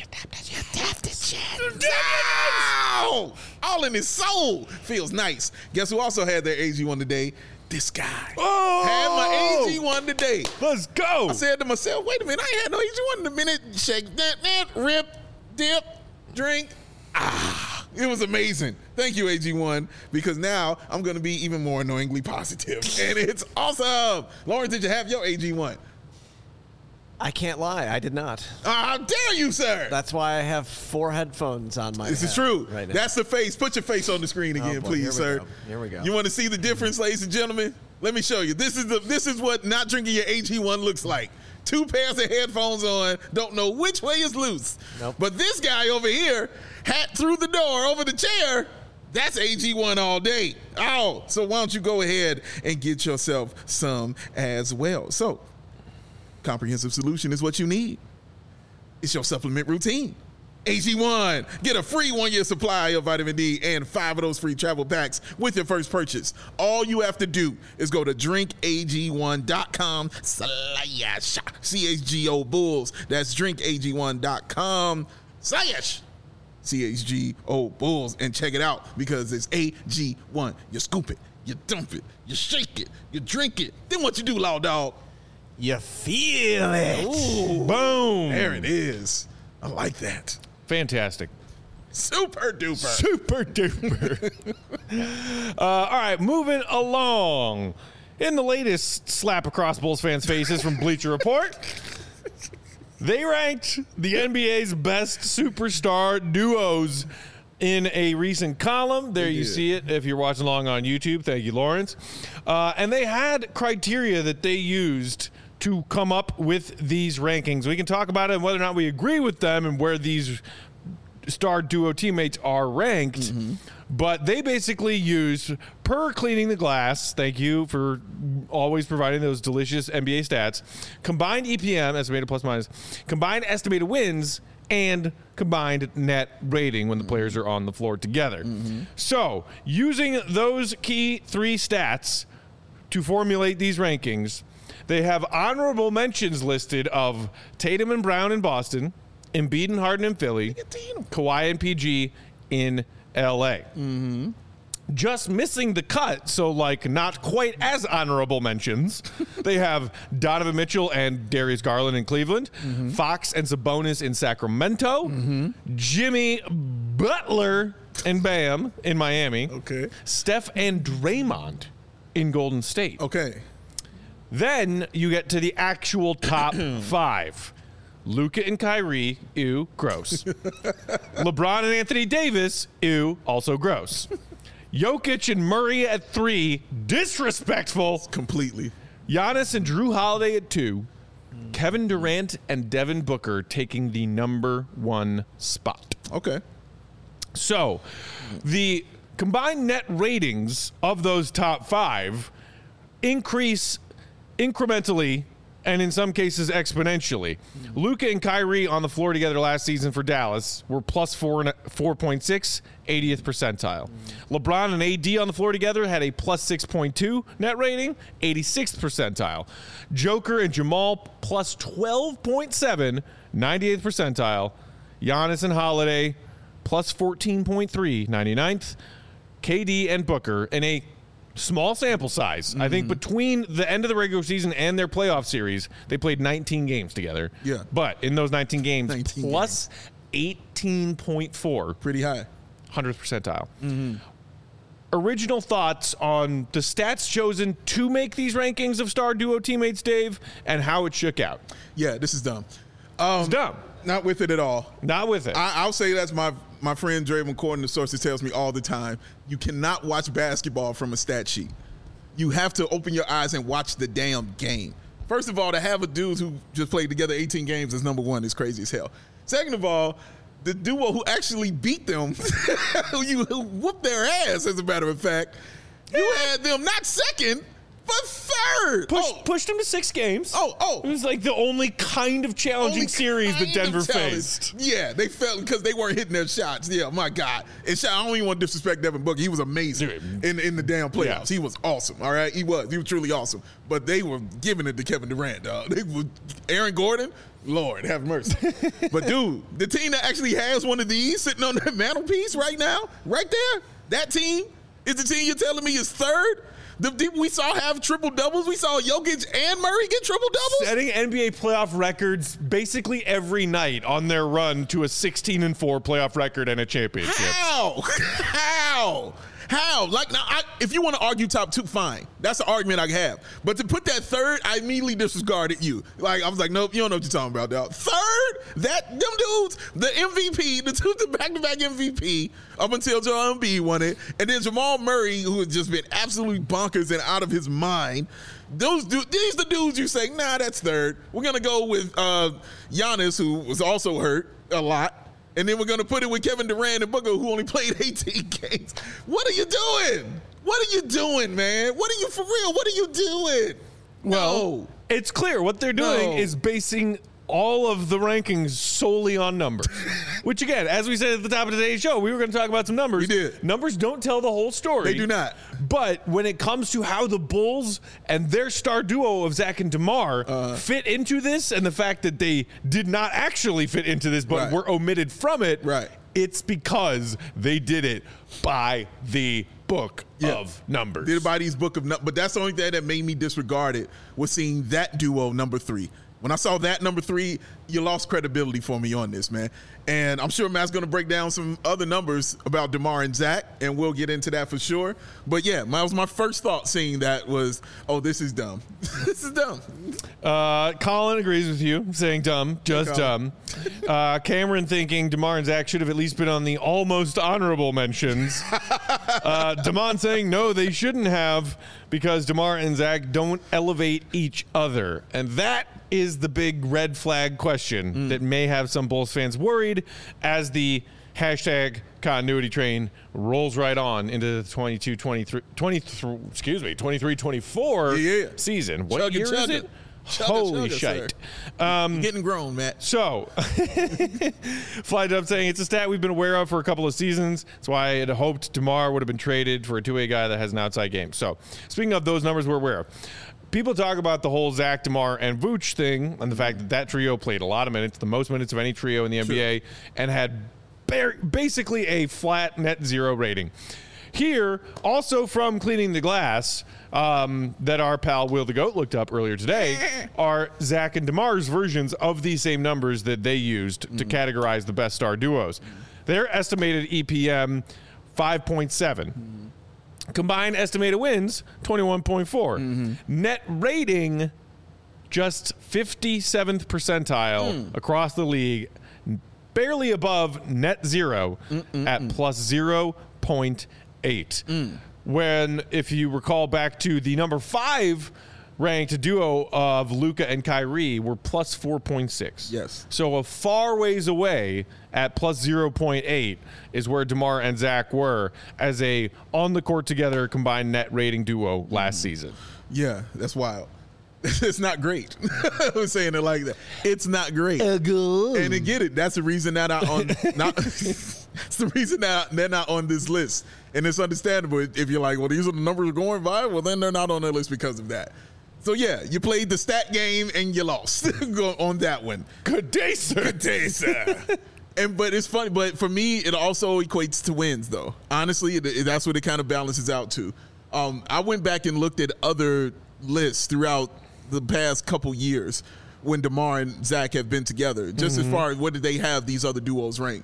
No! All in his soul. Feels nice. Guess who also had their A G one today? This guy. Oh! Had my A G one today. Let's go. I said to myself, wait a minute, I ain't had no A G one in a minute. Shake that, that, rip, dip, drink. Ah, it was amazing. Thank you, A G one, because now I'm going to be even more annoyingly positive. And it's awesome. Lauren, did you have your A G one? I can't lie. I did not. Ah, how dare you, sir? That's why I have four headphones on my This head is true. right now. That's the face. Put your face on the screen again, boy, please, here we sir. go. Here we go. You want to see the difference, ladies and gentlemen? Let me show you. This is the this is what not drinking your A G one looks like. Two pairs of headphones on, don't know which way is loose. Nope. But this guy over here, hat through the door over the chair, that's A G one all day. Oh, so why don't you go ahead and get yourself some as well. So, comprehensive solution is what you need. It's your supplement routine. A G one. Get a free one-year supply of vitamin D and five of those free travel packs with your first purchase. All you have to do is go to drink A G one dot com slash C H G O Bulls. That's drink A G one dot com slash C H G O Bulls and check it out because it's A G one. You scoop it, you dump it, you shake it, you drink it. Then what you do, Law Dog? You feel it. Ooh, Boom. there it is. I like that. Fantastic. Super duper. Super duper. uh, all right, moving along. In the latest slap across Bulls fans' faces from Bleacher Report, they ranked the N B A's best superstar duos in a recent column. There They you did. see it if you're watching along on YouTube. Thank you, Lawrence. Uh, and they had criteria that they used to come up with these rankings. We can talk about it and whether or not we agree with them and where these star duo teammates are ranked. Mm-hmm. But they basically used per cleaning the glass. Thank you for always providing those delicious N B A stats. Combined E P M, estimated plus minus, combined estimated wins, and combined net rating when the players are on the floor together. Mm-hmm. So, using those key three stats to formulate these rankings, they have honorable mentions listed of Tatum and Brown in Boston, Embiid and Harden in Philly, Kawhi and P G in L A. Mm-hmm. Just missing the cut, so like not quite as honorable mentions. They have Donovan Mitchell and Darius Garland in Cleveland, mm-hmm. Fox and Sabonis in Sacramento, mm-hmm. Jimmy Butler and Bam in Miami, Okay. Steph and Draymond in Golden State. Okay. Then you get to the actual top five. Luka and Kyrie, ew, gross. LeBron and Anthony Davis, ew, also gross. Jokic and Murray at three, disrespectful. Completely. Giannis and Drew Holiday at two. Kevin Durant and Devin Booker taking the number one spot. Okay. So, the combined net ratings of those top five increase incrementally and in some cases exponentially. Luka and Kyrie on the floor together last season for Dallas were plus four, four point six, eightieth percentile. LeBron and A D on the floor together had a plus six point two net rating, eighty-sixth percentile. Joker and Jamal plus twelve point seven, ninety-eighth percentile. Giannis and Holiday plus fourteen point three, ninety-ninth. K D and Booker in a small sample size. Mm-hmm. I think between the end of the regular season and their playoff series, they played nineteen games together. Yeah. But in those nineteen games, nineteen plus eighteen point four, Pretty high. hundredth percentile. Mm-hmm. Original thoughts on the stats chosen to make these rankings of star duo teammates, Dave, and how it shook out. Yeah, this is dumb. Um, It's dumb. Not with it at all. Not with it. I, I'll say that's my my friend Draymond Corden, the sources, tells me all the time. You cannot watch basketball from a stat sheet. You have to open your eyes and watch the damn game. First of all, to have a dude who just played together eighteen games as number one is crazy as hell. Second of all, the duo who actually beat them, who you who whooped their ass, as a matter of fact, you had them not second, but third. Push, oh, pushed him to six games. oh, oh. It was like the only kind of challenging Only series that kind of Denver challenge. faced. Yeah, they felt because they weren't hitting their shots. Yeah, my God. And shot, I don't even want to disrespect Devin Booker. He was amazing Dude. in, in the damn playoffs. Yeah. He was awesome, all right? He was. He was truly awesome. But they were giving it to Kevin Durant, dog. They were, Aaron Gordon, Lord, have mercy. But, dude, the team that actually has one of these sitting on their mantelpiece right now, right there, that team is the team you're telling me is third? The people we saw have triple doubles. We saw Jokic and Murray get triple doubles. Setting N B A playoff records basically every night on their run to a sixteen and four playoff record and a championship. How? How? How? Like, now, I, if you want to argue top two, fine. That's an argument I can have. But to put that third, I immediately disregarded you. Like, I was like, nope, you don't know what you're talking about, dog. Third? That, them dudes, the M V P, the two, the back-to-back M V P, up until Joel Embiid won it. And then Jamal Murray, who has just been absolutely bonkers and out of his mind. Those dudes, these the dudes you say, nah, that's third. We're going to go with uh, Giannis, who was also hurt a lot. And then we're going to put it with Kevin Durant and Booker, who only played eighteen games. What are you doing? What are you doing, man? What are you, for real? What are you doing? Well, No. it's clear what they're doing No. is basing all of the rankings solely on numbers. Which, again, as we said at the top of today's show, we were going to talk about some numbers. We did. Numbers don't tell the whole story. They do not. But when it comes to how the Bulls and their star duo of Zach and DeMar Uh. fit into this, and the fact that they did not actually fit into this but Right. were omitted from it, Right. it's because they did it by the book Yeah. of numbers. Did it by these book of numbers. But that's the only thing that made me disregard it was seeing that duo number three. When I saw that number three, you lost credibility for me on this, man. And I'm sure Matt's going to break down some other numbers about DeMar and Zach, and we'll get into that for sure. But yeah, that was my first thought seeing that was, oh, this is dumb. This is dumb. Uh, Colin agrees with you, saying dumb, just dumb. Uh, Cameron thinking DeMar and Zach should have at least been on the almost honorable mentions. uh, Damon saying no, they shouldn't have, because DeMar and Zach don't elevate each other. And that is the big red flag question mm. that may have some Bulls fans worried as the hashtag continuity train rolls right on into the twenty-two twenty-three, twenty-three excuse me, twenty-three twenty-four yeah, yeah. season. What chugga, year chugga. is it? Chugga, Holy chugga, shite. Um, You're getting grown, Matt. So, Fly Dub saying it's a stat we've been aware of for a couple of seasons. That's why I had hoped DeMar would have been traded for a two-way guy that has an outside game. So, speaking of those numbers we're aware of, people talk about the whole Zach, DeMar, and Vooch thing and the fact that that trio played a lot of minutes, the most minutes of any trio in the N B A, and had bar- basically a flat net zero rating. Here, also from Cleaning the Glass, um, that our pal Will the Goat looked up earlier today, are Zach and DeMar's versions of these same numbers that they used mm. to categorize the best star duos. Mm. Their estimated E P M, five point seven. Mm. Combined estimated wins, twenty-one point four. Mm-hmm. Net rating, just fifty-seventh percentile mm. across the league, barely above net zero Mm-mm-mm. at plus zero point eight. Mm. When, if you recall back to the number five ranked duo of Luka and Kyrie, were plus four point six. Yes. So a far ways away at plus zero point eight is where DeMar and Zach were as a on-the-court together combined net rating duo last mm. season. Yeah, that's wild. It's not great. I was saying it like that. It's not great. Uh, and to get it, that's the reason that I on not it's the reason that they're not on this list. And it's understandable if you're like, well, these are the numbers going by. Well, then they're not on the list because of that. So yeah, you played the stat game and you lost on that one. Good day, sir. Good day, sir. And but it's funny. But for me, it also equates to wins, though. Honestly, it, it, that's what it kind of balances out to. Um, I went back and looked at other lists throughout the past couple years when DeMar and Zach have been together, just mm-hmm. as far as what did they have these other duos ranked.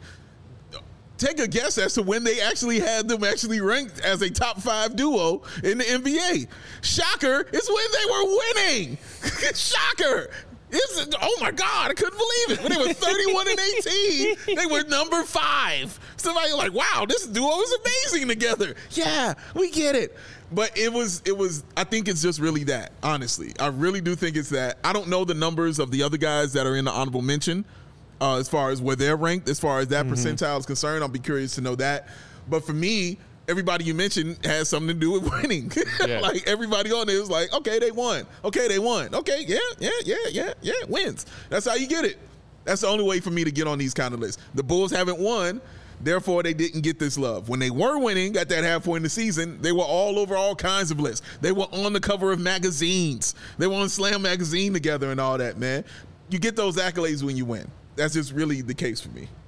Take a guess as to when they actually had them actually ranked as a top five duo in the N B A. Shocker, it's when they were winning. Shocker. It's, oh my God, I couldn't believe it. When they were thirty-one and eighteen, they were number five. Somebody like, wow, this duo is amazing together. Yeah, we get it. But it was, it was, I think it's just really that, honestly. I really do think it's that. I don't know the numbers of the other guys that are in the honorable mention uh, as far as where they're ranked, as far as that mm-hmm. percentile is concerned. I'll be curious to know that. But for me, everybody you mentioned has something to do with winning. Yeah. Like everybody on there is like, okay, they won. Okay, they won. Okay, yeah, yeah, yeah, yeah, yeah, wins. That's how you get it. That's the only way for me to get on these kind of lists. The Bulls haven't won. Therefore, they didn't get this love. When they were winning at that half point in the season, they were all over all kinds of lists. They were on the cover of magazines. They were on Slam Magazine together and all that, man. You get those accolades when you win. That's just really the case for me.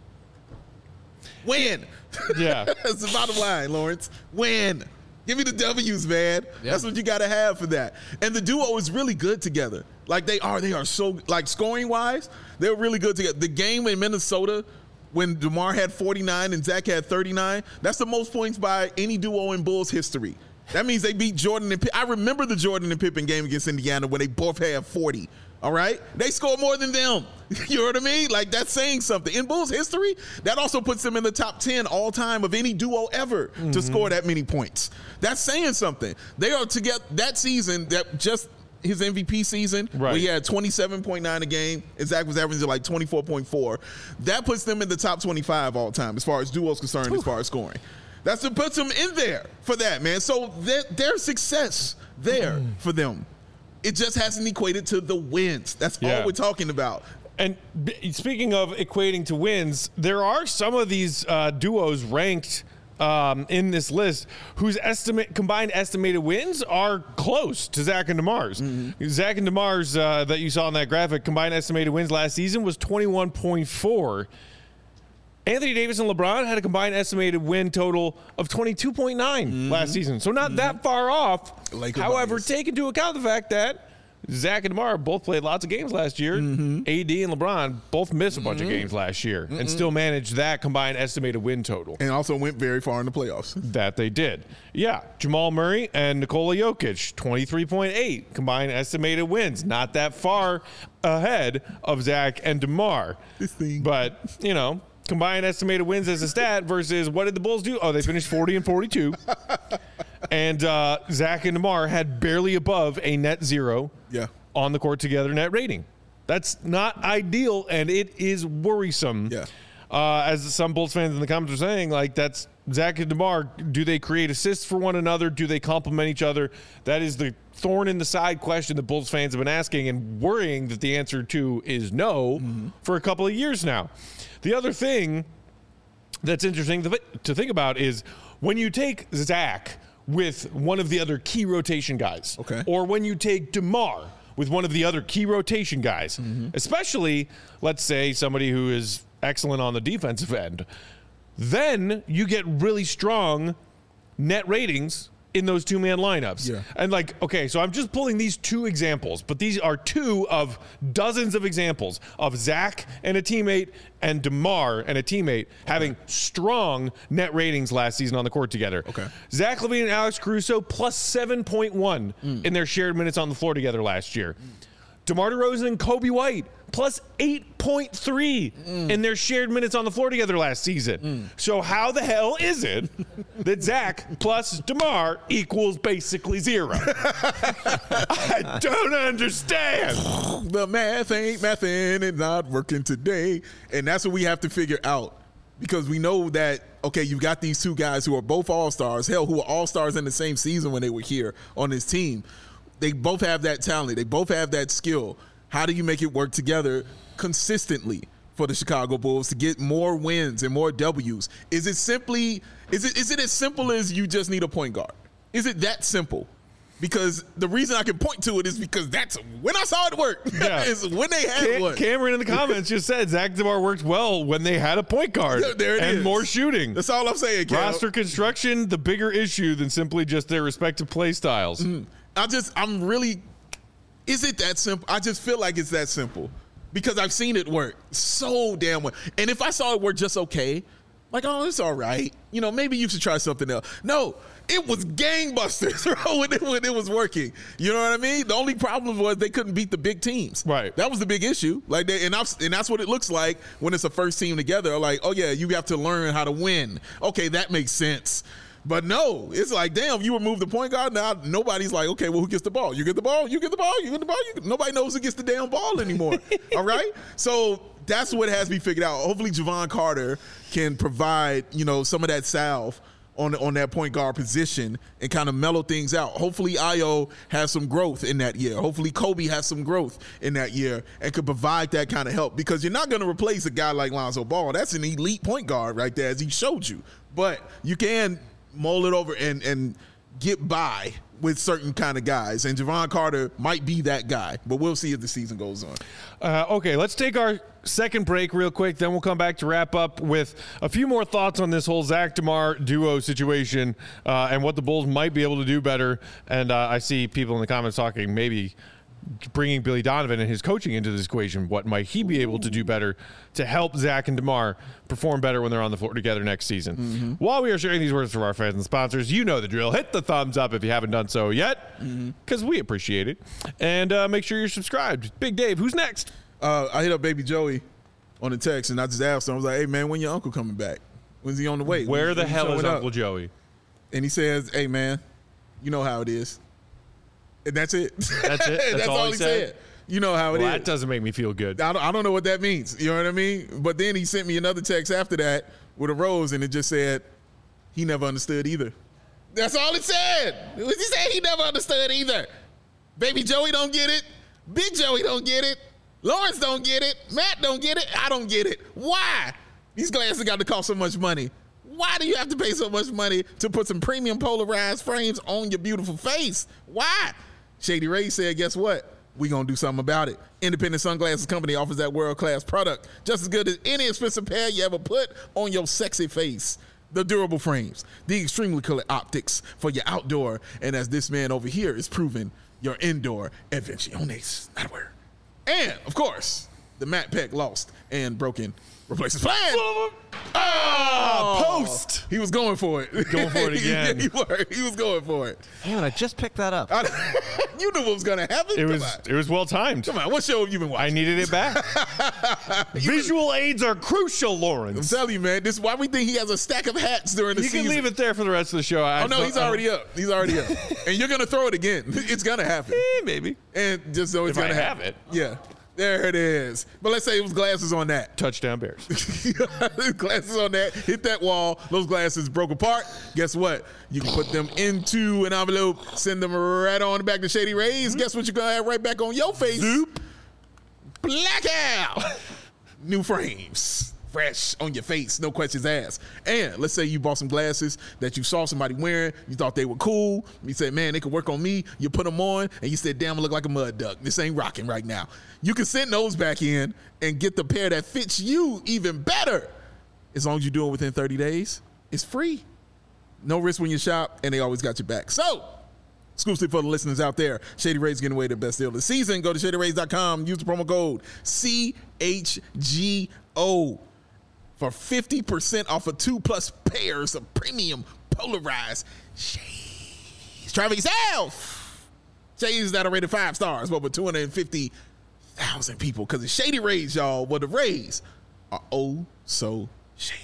Win. Yeah. That's the bottom line, Lawrence. Win. Give me the W's, man. Yeah. That's what you got to have for that. And the duo is really good together. Like they are. They are so, like scoring-wise, they're really good together. The game in Minnesota, when DeMar had forty-nine and Zach had thirty-nine, that's the most points by any duo in Bulls history. That means they beat Jordan and Pippen. I remember the Jordan and Pippen game against Indiana when they both had forty. All right? They scored more than them. You know what I mean? Like, that's saying something. In Bulls history, that also puts them in the top ten all time of any duo ever mm-hmm. to score that many points. That's saying something. They are together that season, that just his M V P season, right, where he had twenty-seven point nine a game, and Zach was averaging like twenty-four point four. That puts them in the top twenty-five all time as far as duos concerned, Ooh. as far as scoring. That's what puts them in there for that, man. So there's success there mm. for them. It just hasn't equated to the wins. That's yeah. all we're talking about. And b- speaking of equating to wins, there are some of these uh, duos ranked um, in this list whose estimate combined estimated wins are close to Zach and DeMar's. Mm-hmm. Zach and DeMar's uh, that you saw in that graphic, combined estimated wins last season was twenty-one point four. Anthony Davis and LeBron had a combined estimated win total of twenty-two point nine mm-hmm. last season. So not mm-hmm. that far off. Laker However, bias. take into account the fact that Zach and DeMar both played lots of games last year. Mm-hmm. A D and LeBron both missed a bunch mm-hmm. of games last year mm-hmm. and still managed that combined estimated win total. And also went very far in the playoffs. That they did. Yeah. Jamal Murray and Nikola Jokic, twenty-three point eight combined estimated wins. Not that far ahead of Zach and DeMar. This thing. But, you know, combined estimated wins as a stat versus what did the Bulls do? Oh, they finished forty and forty-two. And uh, Zach and DeMar had barely above a net zero yeah. on the court together net rating. That's not ideal, and it is worrisome. Yeah. Uh, as some Bulls fans in the comments are saying, like, that's Zach and DeMar. Do they create assists for one another? Do they complement each other? That is the thorn in the side question that Bulls fans have been asking and worrying that the answer to is no mm-hmm. for a couple of years now. The other thing that's interesting to think about is when you take Zach with one of the other key rotation guys, okay. or when you take DeMar with one of the other key rotation guys, mm-hmm. especially, let's say, somebody who is excellent on the defensive end, then you get really strong net ratings in those two-man lineups. Yeah. And like, okay, so I'm just pulling these two examples, but these are two of dozens of examples of Zach and a teammate and DeMar and a teammate having strong net ratings last season on the court together. Okay. Zach LaVine and Alex Caruso plus seven point one mm. in their shared minutes on the floor together last year. Mm. DeMar DeRozan and Kobe White plus eight point three mm. in their shared minutes on the floor together last season. Mm. So how the hell is it that Zach plus DeMar equals basically zero? I don't understand. The math ain't mathin', it's not working today. And that's what we have to figure out. Because we know that, okay, you've got these two guys who are both all-stars, hell, who were all-stars in the same season when they were here on this team. They both have that talent. They both have that skill. How do you make it work together consistently for the Chicago Bulls to get more wins and more W's? Is it simply, is it is it as simple as you just need a point guard? Is it that simple? Because the reason I can point to it is because that's when I saw it work. Yeah. is when they had Cam- one. Cameron in the comments just said Zach DeMar worked well when they had a point guard Yeah, there it and is. more shooting. That's all I'm saying, Cam. Roster construction, the bigger issue than simply just their respective play styles. Mm. I just, I'm really, is it that simple? I just feel like it's that simple because I've seen it work so damn well. And if I saw it work just okay, like, oh, it's all right. You know, maybe you should try something else. No, it was gangbusters, bro, when it, when it was working. You know what I mean? The only problem was they couldn't beat the big teams. Right. That was the big issue. Like, they, and, I've, and that's what it looks like when it's a first team together. Like, oh, yeah, you have to learn how to win. Okay, that makes sense. But no, it's like, damn, you remove the point guard, now nobody's like, okay, well, who gets the ball? You get the ball, you get the ball, you get the ball. You get, nobody knows who gets the damn ball anymore, all right? So that's what has to be figured out. Hopefully Javon Carter can provide, you know, some of that salve on, on that point guard position and kind of mellow things out. Hopefully Ayo has some growth in that year. Hopefully Kobe has some growth in that year and could provide that kind of help because you're not going to replace a guy like Lonzo Ball. That's an elite point guard right there, as he showed you. But you can mull it over and, and get by with certain kind of guys. And Javon Carter might be that guy, but we'll see as the season goes on. Uh, okay, let's take our second break real quick. Then we'll come back to wrap up with a few more thoughts on this whole Zach DeMar duo situation uh, and what the Bulls might be able to do better. And uh, I see people in the comments talking maybe bringing Billy Donovan and his coaching into this equation. What might he be able to do better to help Zach and DeMar perform better when they're on the floor together next season? Mm-hmm. While we are sharing these words from our fans and sponsors, you know the drill. Hit the thumbs up if you haven't done so yet, because mm-hmm. we appreciate it. And uh, make sure you're subscribed. Big Dave, who's next? Uh, I hit up Baby Joey on the text, and I just asked him, I was like, hey, man, when your uncle coming back? When's he on the way? Where when, the when hell is up? Uncle Joey? And he says, hey, man, you know how it is. And that's it. That's it? That's, that's all, all he said? said. You know how it well, is. That doesn't make me feel good. I don't, I don't know what that means. You know what I mean? But then he sent me another text after that with a rose, and it just said he never understood either. That's all it said. He said he never understood either. Baby Joey don't get it. Big Joey don't get it. Lawrence don't get it. Matt don't get it. I don't get it. Why? These glasses got to cost so much money. Why do you have to pay so much money to put some premium polarized frames on your beautiful face? Why? Shady Ray said, guess what? We gonna do something about it. Independent Sunglasses Company offers that world-class product, just as good as any expensive pair you ever put on your sexy face. The durable frames, the extremely clear optics for your outdoor, and as this man over here is proven, your indoor Invenciones. Not a word. And, of course, the Matt Peck lost and broken replaces plan. Ah, post. He was going for it. Going for it again. Yeah, he, were. he was going for it. Man, I just picked that up. I, you knew what was going to happen. It Come was on. it was well timed. Come on. What show have you been I watching? needed it back. Visual aids are crucial, I'm Lawrence. telling you, man. This is why we think he has a stack of hats during the You season. can leave it there for the rest of the show. I Oh, no, he's already up. He's already up. And you're going to throw it again. It's going to happen. Eh, maybe. And just so it's If I going to have happen. it. Yeah. There it is. But let's say it was glasses on that. Touchdown Bears. Glasses on that. Hit that wall. Those glasses broke apart. Guess what? You can put them into an envelope, send them right on back to Shady Rays. Guess what you're going to have right back on your face? Zoop. Blackout. New frames. Fresh on your face, no questions asked. And let's say you bought some glasses that you saw somebody wearing, you thought they were cool. You said, man, they could work on me. You put them on, and you said, damn, I look like a mud duck. This ain't rocking right now. You can send those back in and get the pair that fits you even better. As long as you do it within thirty days, it's free. No risk when you shop, and they always got your back. So, exclusive for the listeners out there, Shady Rays giving away the best deal of the season. Go to shady rays dot com, use the promo code C H G O. for fifty percent off of two plus pairs of premium polarized shades. Try it for yourself. Shades that are rated five stars, but with two hundred fifty thousand people. Because it's Shady Rays, y'all. Well, the Rays are oh so shady.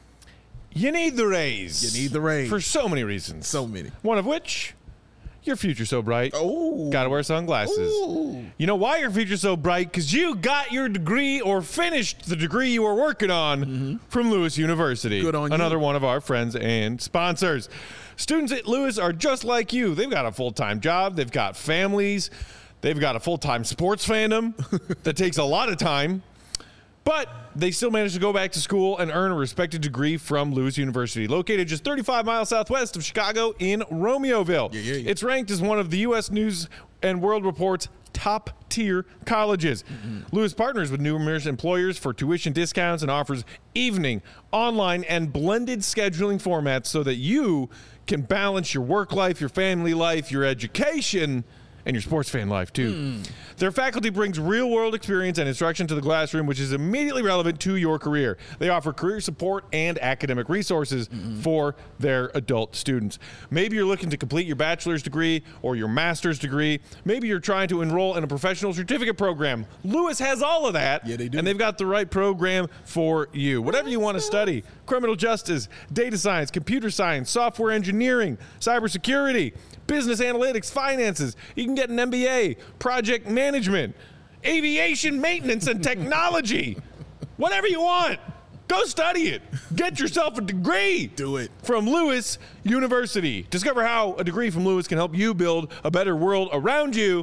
You need the Rays. You need the Rays. For so many reasons. So many. One of which, your future's so bright. Oh. Gotta wear sunglasses. Ooh. You know why your future's so bright? Because you got your degree or finished the degree you were working on mm-hmm. from Lewis University. Good on you. Another one of our friends and sponsors. Students at Lewis are just like you. They've got a full-time job. They've got families. They've got a full-time sports fandom that takes a lot of time. But they still managed to go back to school and earn a respected degree from Lewis University, located just thirty-five miles southwest of Chicago in Romeoville. Yeah, yeah, yeah. It's ranked as one of the U S News and World Report's top-tier colleges. Mm-hmm. Lewis partners with numerous employers for tuition discounts and offers evening, online, and blended scheduling formats so that you can balance your work life, your family life, your education, and your sports fan life, too. Mm. Their faculty brings real-world experience and instruction to the classroom, which is immediately relevant to your career. They offer career support and academic resources mm-hmm. for their adult students. Maybe you're looking to complete your bachelor's degree or your master's degree. Maybe you're trying to enroll in a professional certificate program. Lewis has all of that. Yeah, they do. And they've got the right program for you. Whatever you want to study, criminal justice, data science, computer science, software engineering, cybersecurity, business analytics, finances. You can get an M B A, project management, aviation maintenance and technology. Whatever you want. Go study it. Get yourself a degree. Do it. From Lewis University. Discover how a degree from Lewis can help you build a better world around you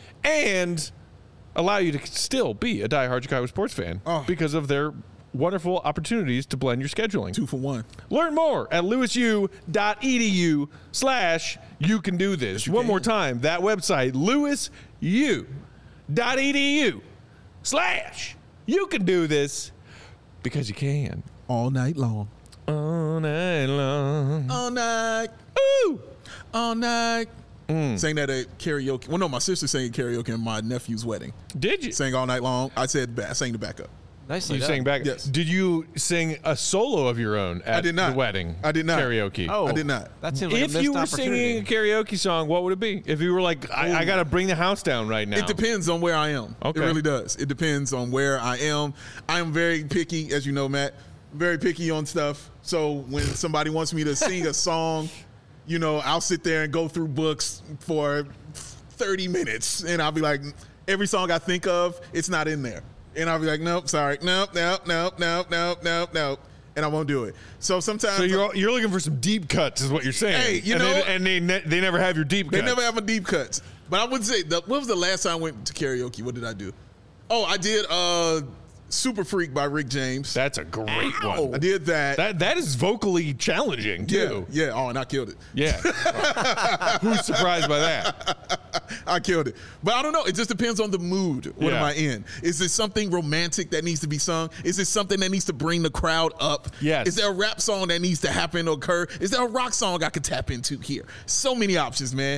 and allow you to still be a diehard Chicago sports fan oh. because of their wonderful opportunities to blend your scheduling. Two for one. Learn more at lewisu.edu slash you can do this. One can. more time, that website, lewisu.edu slash you can do this because you can. All night long. All night long. All night. Ooh. All night. Mm. Sang that at karaoke. Well, no, my sister sang karaoke at my nephew's wedding. Did you? Sang all night long. I said, I sang the backup. Nicely You done. sang back. Yes. Did you sing a solo of your own at I did not. the wedding? I did not. Karaoke. Oh, I did not. That seems like a If missed you were opportunity. singing a karaoke song, what would it be? If you were like, I, I got to bring the house down right now. It depends on where I am. Okay. It really does. It depends on where I am. I am very picky, as you know, Matt. Very picky on stuff. So when somebody wants me to sing a song, you know, I'll sit there and go through books for thirty minutes, and I'll be like, every song I think of, it's not in there. And I'll be like, nope, sorry, nope, nope, nope, nope, nope, nope, nope, and I won't do it. So sometimes, So you're you're looking for some deep cuts, is what you're saying. Hey, you and know- they, and they ne- they never have your deep they cuts. never have a deep cuts. But I would say, the, what was the last time I went to karaoke? What did I do? Oh, I did uh, "Super Freak" by Rick James. That's a great I one. did that. That that is vocally challenging yeah, too. yeah. Oh, and I killed it. Yeah. Who's surprised by that? I killed it. But I don't know. It just depends on the mood. What Yeah. am I in? Is it something romantic that needs to be sung? Is it something that needs to bring the crowd up? Yes. Is there a rap song that needs to happen or occur? Is there a rock song I could tap into here? So many options, man.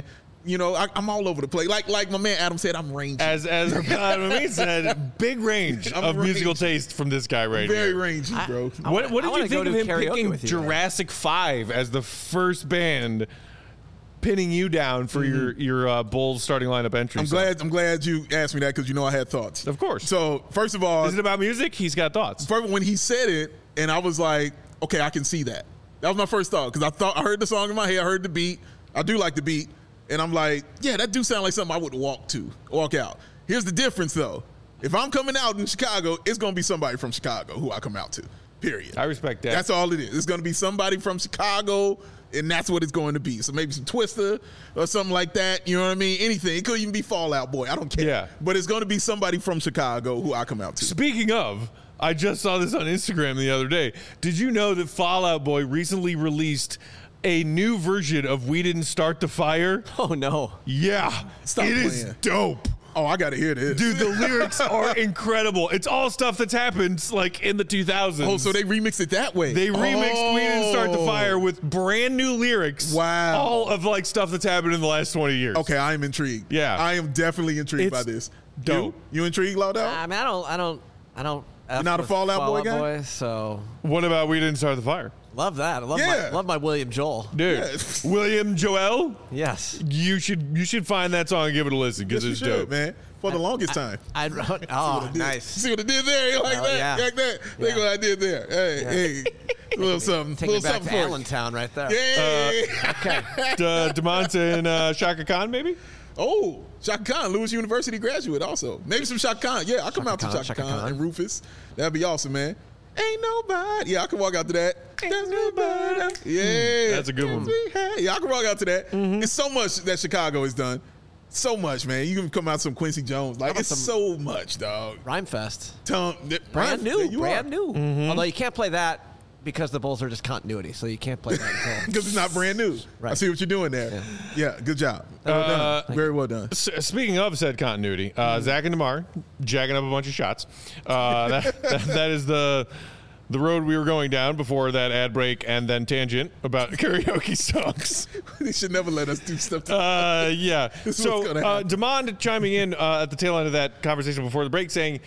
You know, I, I'm all over the place. Like like my man Adam said, I'm rangy. As as Adam said, big range I'm of rangy. musical taste from this guy right Very here. rangy, bro. I- What, what I did wanna you go think of to him karaoke picking with you. Jurassic five as the first band, pinning you down for your your uh, Bulls starting lineup entry? I'm song? glad. I'm glad you asked me that because you know I had thoughts. Of course. So first of all, Is it about music? He's got thoughts. first, when he said it, and I was like, okay, I can see that. That was my first thought because I thought I heard the song in my head, I heard the beat. I do like the beat, and I'm like, yeah, that do sound like something I would walk to, walk out. Here's the difference, though. If I'm coming out in Chicago, it's gonna be somebody from Chicago who I come out to. Period. I respect that. That's all it is. It's gonna be somebody from Chicago, and that's what it's going to be. So maybe some Twister or something like that. You know what I mean? Anything. It could even be Fall Out Boy. I don't care. Yeah. But it's gonna be somebody from Chicago who I come out to. Speaking of, I just saw this on Instagram the other day. Did you know that Fall Out Boy recently released a new version of We Didn't Start the Fire? Oh no. Yeah. Stop it is playing. dope. Oh, I gotta hear this. Dude, the lyrics are incredible. It's all stuff that's happened like in the two thousands. Oh, so they remixed it that way. They remixed We Didn't Start the Fire with brand new lyrics. Wow. All of like stuff that's happened in the last twenty years. Okay, I am intrigued. Yeah. I am definitely intrigued It's by this. dope. You, you intrigued, Laudel? I mean, I don't, I don't, I don't. F not a with Fall Out Boy Fall guy? so What about We Didn't Start the Fire? love that. I love Yeah. my, love my William Joel. Dude, Yeah. William Joel, Yes. you should you should find that song and give it a listen because Yes, it's you should, dope. man. For the longest time. I'd. Oh, nice. See what I did there? You like Oh, that? yeah. You like that? Think Yeah. what I did there. Hey, hey. A little something. Take me little back to something for you. Allentown right there. Yeah. Okay. Uh, DeMonte and uh, Shaka Khan, maybe? Oh, Shaka Khan, Lewis University graduate also. Maybe some Shaka Khan. Yeah, I'll come Shaka out to Khan, Shaka, Shaka Khan, Khan. and Rufus. That'd be awesome, man. Ain't nobody. Yeah, I can walk out to that. There's nobody. Yeah. That's a good one. Yeah, I can walk out to that. It's so much that Chicago has done. So much, man. You can come out some Quincy Jones. Like, about it's some- so much, dog. Rhymefest. Tom, Brand Brian, new. there you Brand are. new. Mm-hmm. Although you can't play that because the Bulls are just continuity, so you can't play that until. Because it's not brand new. I Right. see what you're doing there. Yeah, good job. Well Uh, done. Very well done. S- Speaking of said continuity, uh, Zach and DeMar jacking up a bunch of shots. Uh, that, that, that is the the road we were going down before that ad break and then tangent about karaoke songs. They should never let us do stuff. To- Uh, yeah. This is so what's gonna uh, happen. Demond chiming in uh, at the tail end of that conversation before the break, saying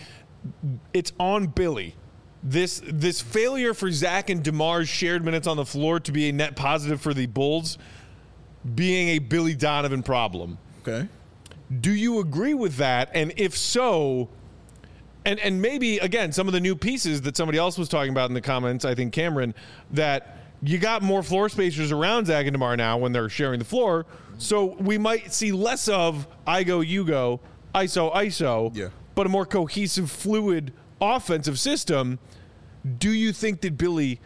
it's on Billy. This this failure for Zach and DeMar's shared minutes on the floor to be a net positive for the Bulls being a Billy Donovan problem. okay. Do you agree with that? And if so, and and maybe again some of the new pieces that somebody else was talking about in the comments, I think Cameron, that you got more floor spacers around Zach and DeMar now when they're sharing the floor, so we might see less of I go, you go, I S O, I S O, Yeah. but a more cohesive, fluid offensive system. Do you think that Billy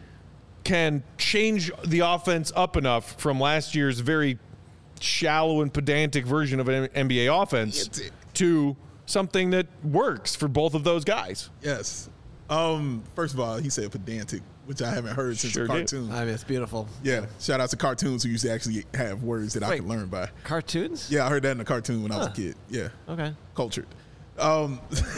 can change the offense up enough from last year's very shallow and pedantic version of an N B A offense It's it. to something that works for both of those guys? Yes. Um. First of all, he said pedantic, which I haven't heard since Sure a did. cartoon. I mean, it's beautiful. Yeah. Shout out to cartoons who used to actually have words that I Wait. could learn by. Cartoons? Yeah, I heard that in a cartoon when I was a Huh. kid. Yeah. Okay. Cultured. Um.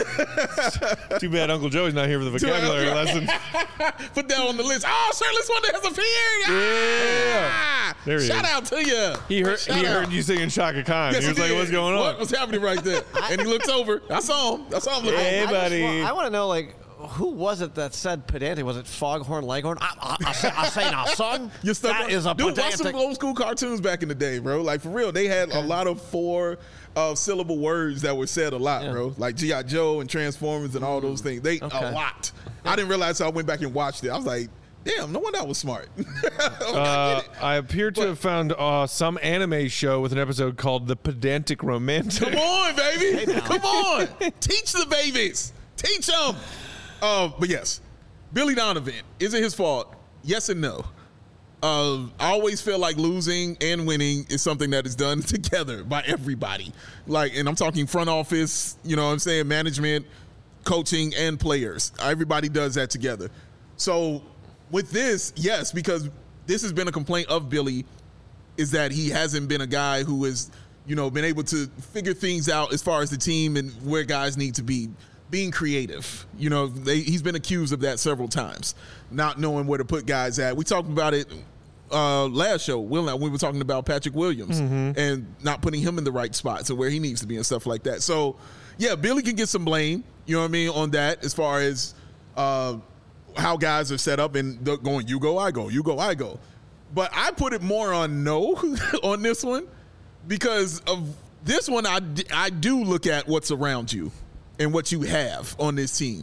Too bad Uncle Joey's not here for the vocabulary lesson. Put that on the list. Oh, Shirtless Wonder has appeared. Yeah. Ah! There he Shout is. out to you. He heard Shout he out. heard you singing Shaka Khan. Yes, he was he like, did. "What's going on?" What was happening right there? And he looks over. I saw him. I saw him looking. Hey, I, buddy. I, just wa- I want to know, like, who was it that said pedantic? Was it Foghorn Leghorn? I, I, I, say, I say now, son. You're stuck that on- is a Dude, watch pedantic. some old school cartoons back in the day, bro. Like, for real, they had a lot of four uh, syllable words that were said a lot, Yeah. bro. Like G I. Joe and Transformers and all those things. They Okay. a lot. I didn't realize, so I went back and watched it. I was like, damn, no wonder I was smart. I Uh, get it. I appear to have found uh, some anime show with an episode called "The Pedantic Romantic." Come on, baby. now. Come on. Teach the babies. Teach them. Uh, but yes, Billy Donovan, is it his fault? Yes and no. Uh, I always feel like losing and winning is something that is done together by everybody. Like, and I'm talking front office, you know what I'm saying, management, coaching, and players. Everybody does that together. So with this, yes, because this has been a complaint of Billy, is that he hasn't been a guy who has, you know, been able to figure things out as far as the team and where guys need to be. Being creative, you know, they, he's been accused of that several times, not knowing where to put guys at. We talked about it uh, last show, Will, we were talking about Patrick Williams mm-hmm. and not putting him in the right spot, so where he needs to be and stuff like that. So, yeah, Billy can get some blame, you know what I mean, on that as far as uh, how guys are set up and going, you go, I go, you go, I go. But I put it more on no on this one because of this one, I, I do look at what's around you and what you have on this team.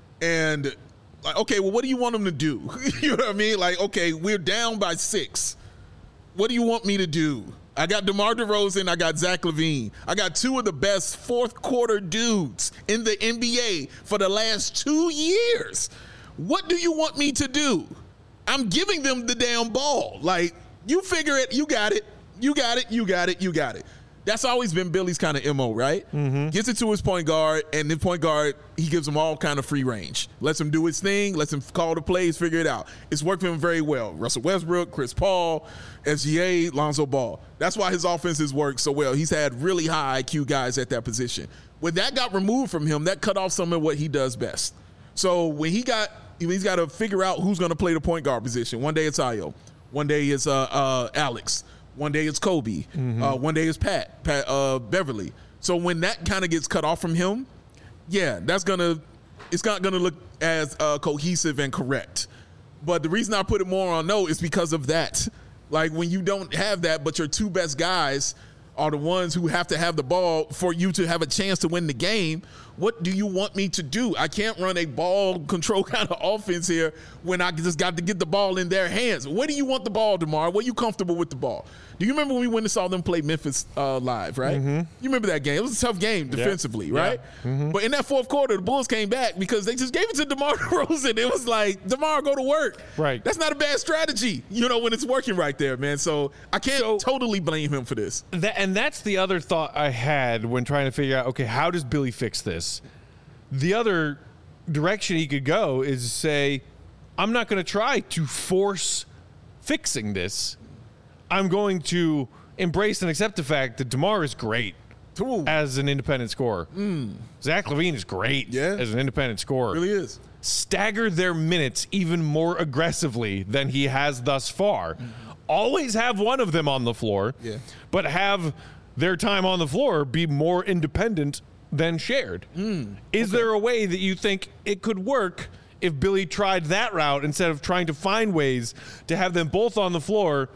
And, like, okay, well, what do you want them to do? You know what I mean? Like, okay, we're down by six. What do you want me to do? I got DeMar DeRozan. I got Zach LaVine. I got two of the best fourth quarter dudes in the N B A for the last two years. What do you want me to do? I'm giving them the damn ball. Like, you figure it. You got it. You got it. You got it. You got it. That's always been Billy's kind of M O, right? Mm-hmm. Gets it to his point guard, and the point guard, he gives him all kind of free range. Lets him do his thing, lets him call the plays, figure it out. It's worked for him very well. Russell Westbrook, Chris Paul, S G A, Lonzo Ball. That's why his offenses work so well. He's had really high I Q guys at that position. When that got removed from him, that cut off some of what he does best. So when he got, he's got to figure out who's going to play the point guard position. One day it's Ayo. One day it's uh, uh, Alex. One day it's Kobe. Mm-hmm. Uh, one day it's Pat, Pat uh, Beverly. So when that kind of gets cut off from him, yeah, that's gonna, it's not gonna look as uh, cohesive and correct. But the reason I put it more on no is because of that. Like when you don't have that, but your two best guys are the ones who have to have the ball for you to have a chance to win the game. What do you want me to do? I can't run a ball control kind of offense here when I just got to get the ball in their hands. Where do you want the ball, DeMar? Where are you comfortable with the ball? Do you remember when we went and saw them play Memphis uh, live, right? Mm-hmm. You remember that game. It was a tough game defensively, yeah. right? Yeah. Mm-hmm. But in that fourth quarter, the Bulls came back because they just gave it to DeMar DeRozan. It was like, DeMar, go to work. Right. That's not a bad strategy, you know, when it's working right there, man. So I can't so, totally blame him for this. That, and that's the other thought I had when trying to figure out, okay, how does Billy fix this? The other direction he could go is say, I'm not going to try to force fixing this. I'm going to embrace and accept the fact that DeMar is great Ooh. as an independent scorer. Mm. Zach LaVine is great yeah. as an independent scorer. Really is. Stagger their minutes even more aggressively than he has thus far. Mm-hmm. Always have one of them on the floor, yeah. but have their time on the floor be more independent than shared. Mm. Is okay. there a way that you think it could work if Billy tried that route instead of trying to find ways to have them both on the floor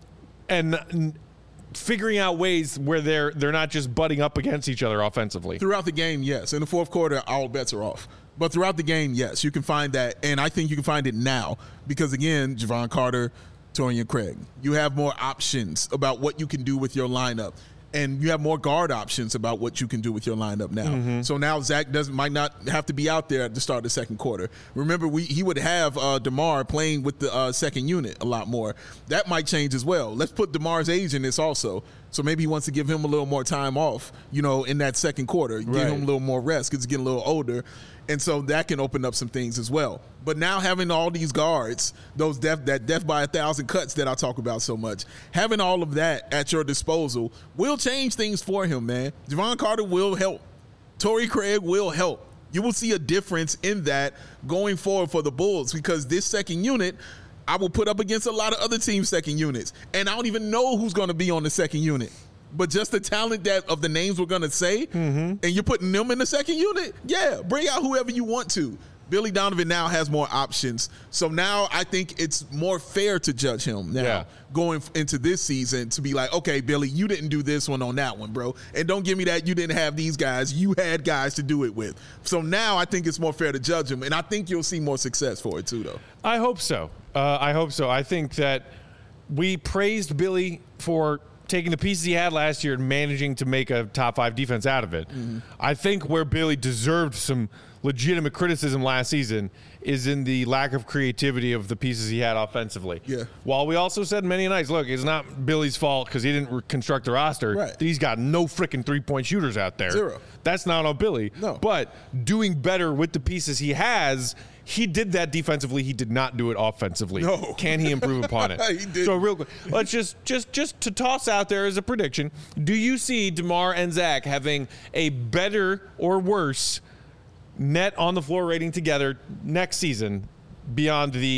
and figuring out ways where they're they're not just butting up against each other offensively? Throughout the game, yes. In the fourth quarter, all bets are off. But throughout the game, yes, you can find that. And I think you can find it now because, again, Javon Carter, Torrey Craig, you have more options about what you can do with your lineup. And you have more guard options about what you can do with your lineup now. Mm-hmm. So now Zach doesn't might not have to be out there at the start of the second quarter. Remember, we he would have uh, DeMar playing with the uh, second unit a lot more. That might change as well. Let's put DeMar's age in this also. So maybe he wants to give him a little more time off, you know, in that second quarter. Give right. him a little more rest because he's getting a little older. And so that can open up some things as well. But now having all these guards, those death that death by a thousand cuts that I talk about so much, having all of that at your disposal will change things for him, man. Javon Carter will help. Torrey Craig will help. You will see a difference in that going forward for the Bulls because this second unit, I will put up against a lot of other teams' second units. And I don't even know who's going to be on the second unit. But just the talent that of the names we're going to say, mm-hmm. and you're putting them in the second unit, yeah, bring out whoever you want to. Billy Donovan now has more options. So now I think it's more fair to judge him now yeah. going into this season to be like, okay, Billy, you didn't do this one on that one, bro. And don't give me that you didn't have these guys. You had guys to do it with. So now I think it's more fair to judge him. And I think you'll see more success for it too, though. I hope so. Uh, I hope so. I think that we praised Billy for taking the pieces he had last year and managing to make a top five defense out of it. Mm-hmm. I think where Billy deserved some legitimate criticism last season is in the lack of creativity of the pieces he had offensively. Yeah. While we also said many nights, look, it's not Billy's fault because he didn't construct the roster. Right. He's got no freaking three-point shooters out there. Zero. That's not on Billy. No. But doing better with the pieces he has, he did that defensively. He did not do it offensively. No. Can he improve upon it? He did. So real quick, let's just just just to toss out there as a prediction, do you see DeMar and Zach having a better or worse net on the floor rating together next season beyond the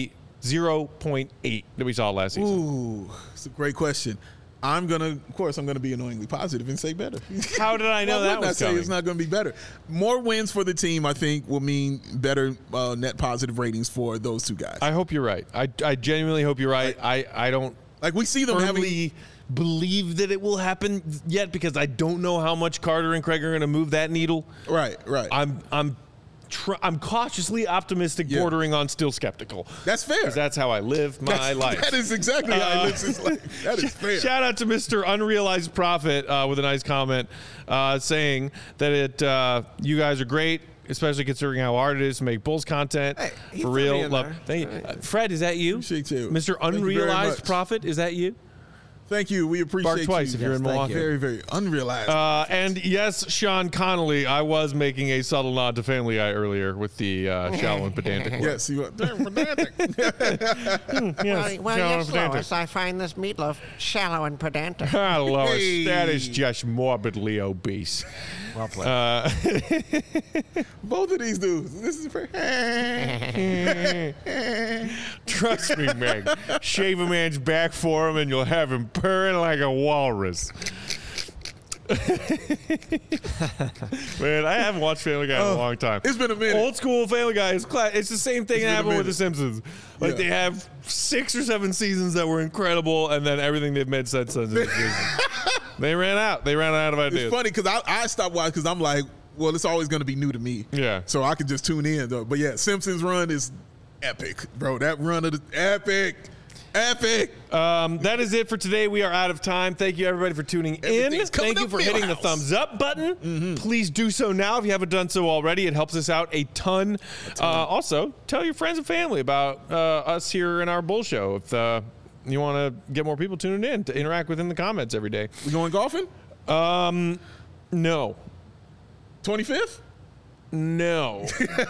zero point eight that we saw last season? Ooh, it's a great question. I'm gonna, of course, I'm gonna be annoyingly positive and say better. How did I know Why that wouldn't I was say coming? it's not gonna be better? More wins for the team, I think, will mean better uh, net positive ratings for those two guys. I hope you're right. I, I genuinely hope you're right. I, I don't like we see them having. firmly believe that it will happen yet because I don't know how much Carter and Craig are going to move that needle. Right, right. I'm I'm tr- I'm cautiously optimistic, Yeah. bordering on still skeptical. That's fair. Because that's how I live my That's- life. That is exactly how Uh, he lives his life. That is fair. Shout out to Mister Unrealized Profit uh, with a nice comment uh, saying that it uh, you guys are great, especially considering how hard it is to make Bulls content. Hey, he for threw me real. in Love. there. Thank you. Uh, Fred, is that you? Appreciate you. Mister Thank you very Unrealized much. Profit, is that you? Thank you. We appreciate Bark twice you. if you're in Yes, thank Milwaukee. you. Very, very unrealized. Uh, and yes, Sean Connolly, I was making a subtle nod to Family Guy earlier with the uh, shallow and pedantic. word. yes, you are. Damn, pedantic. Yes, Well, shallow yes, and pedantic. Lois, I find this meatloaf shallow and pedantic. Ah, Lois, Hey. that is just morbidly obese. Well played. Uh, Both of these dudes. This is very. trust me, Meg. Shave a man's back for him, and you'll have him purring like a walrus. Man, I haven't watched Family Guy in a Oh, long time. it's been a minute. Old school Family Guy is cla- It's the same thing It's that been a happened with minute. The Simpsons. Like Yeah. they have six or seven seasons that were incredible, and then everything they've made since then. is just- they ran out. They ran out of ideas. It's funny because I, I stopped watching because I'm like, well, it's always going to be new to me. Yeah. So I could just tune in though. But yeah, Simpsons run is epic, bro. That run of the epic, epic. Um, that is it for today. We are out of time. Thank you, everybody, for tuning in. Everything's coming Thank you up for hitting the Millhouse. thumbs up button. Mm-hmm. Please do so now if you haven't done so already. It helps us out a ton. Uh, also, tell your friends and family about uh, us here in our Bull Show. If uh, you want to get more people tuning in to interact within the comments every day. We going golfing? Um, no. twenty-fifth? No.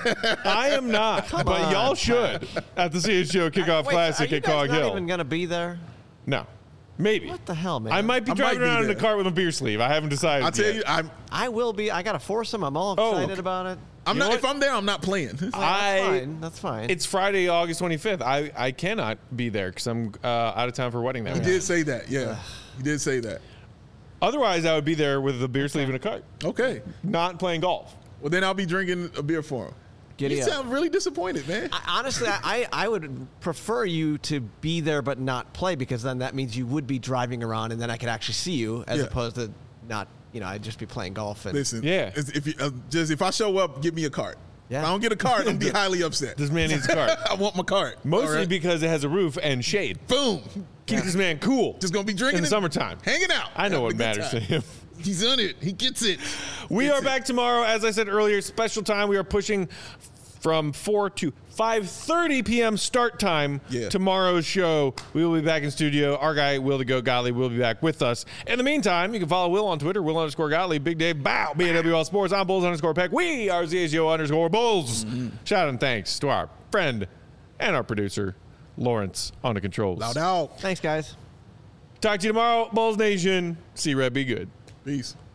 I am not. but y'all should at the C H G O Kickoff Wait, Classic are you at guys Cog not Hill. even going to be there? No. Maybe. What the hell, man? I might be I driving might be around in a there. cart with a beer sleeve. I haven't decided I'll tell yet. you, I'm I will be. I got a foursome. I'm all Oh, excited okay. about it. I'm You know not. If what? I'm there, I'm not playing. Oh, that's I- fine. That's fine. It's Friday, August twenty-fifth. I, I cannot be there because I'm uh, out of town for a wedding that You week. did say that. Yeah, you did say that. Otherwise, I would be there with a beer sleeve and a cart, Okay. not playing golf. Well, then I'll be drinking a beer for him. Giddy You up. sound really disappointed, man. I, honestly, I, I would prefer you to be there but not play because then that means you would be driving around and then I could actually see you as Yeah. opposed to not, you know, I'd just be playing golf. And Listen, Yeah. is- if you, uh, just if I show up, give me a cart. Yeah. If I don't get a cart, I'm gonna be highly upset. This man needs a cart. I want my cart. Mostly All right? because it has a roof and shade. boom, Keep this man cool. just gonna be drinking in the it, summertime. hanging out. I know having what a good matters to time. him. He's on it. He gets it. We Gets are it. back tomorrow. As I said earlier, special time. We are pushing from four to five thirty p.m. start time. Yeah. Tomorrow's show. We will be back in studio. Our guy, Will the Goat Gottlieb, will be back with us. In the meantime, you can follow Will on Twitter, Will underscore Gottlieb, Big Dave, Bow, B A W L Sports, I'm Bulls underscore Peck. We are Z H G O underscore Bulls. Mm-hmm. Shout out and thanks to our friend and our producer, Lawrence, on the controls. Loud out. Thanks, guys. Talk to you tomorrow, Bulls Nation. See Red, be good. Peace.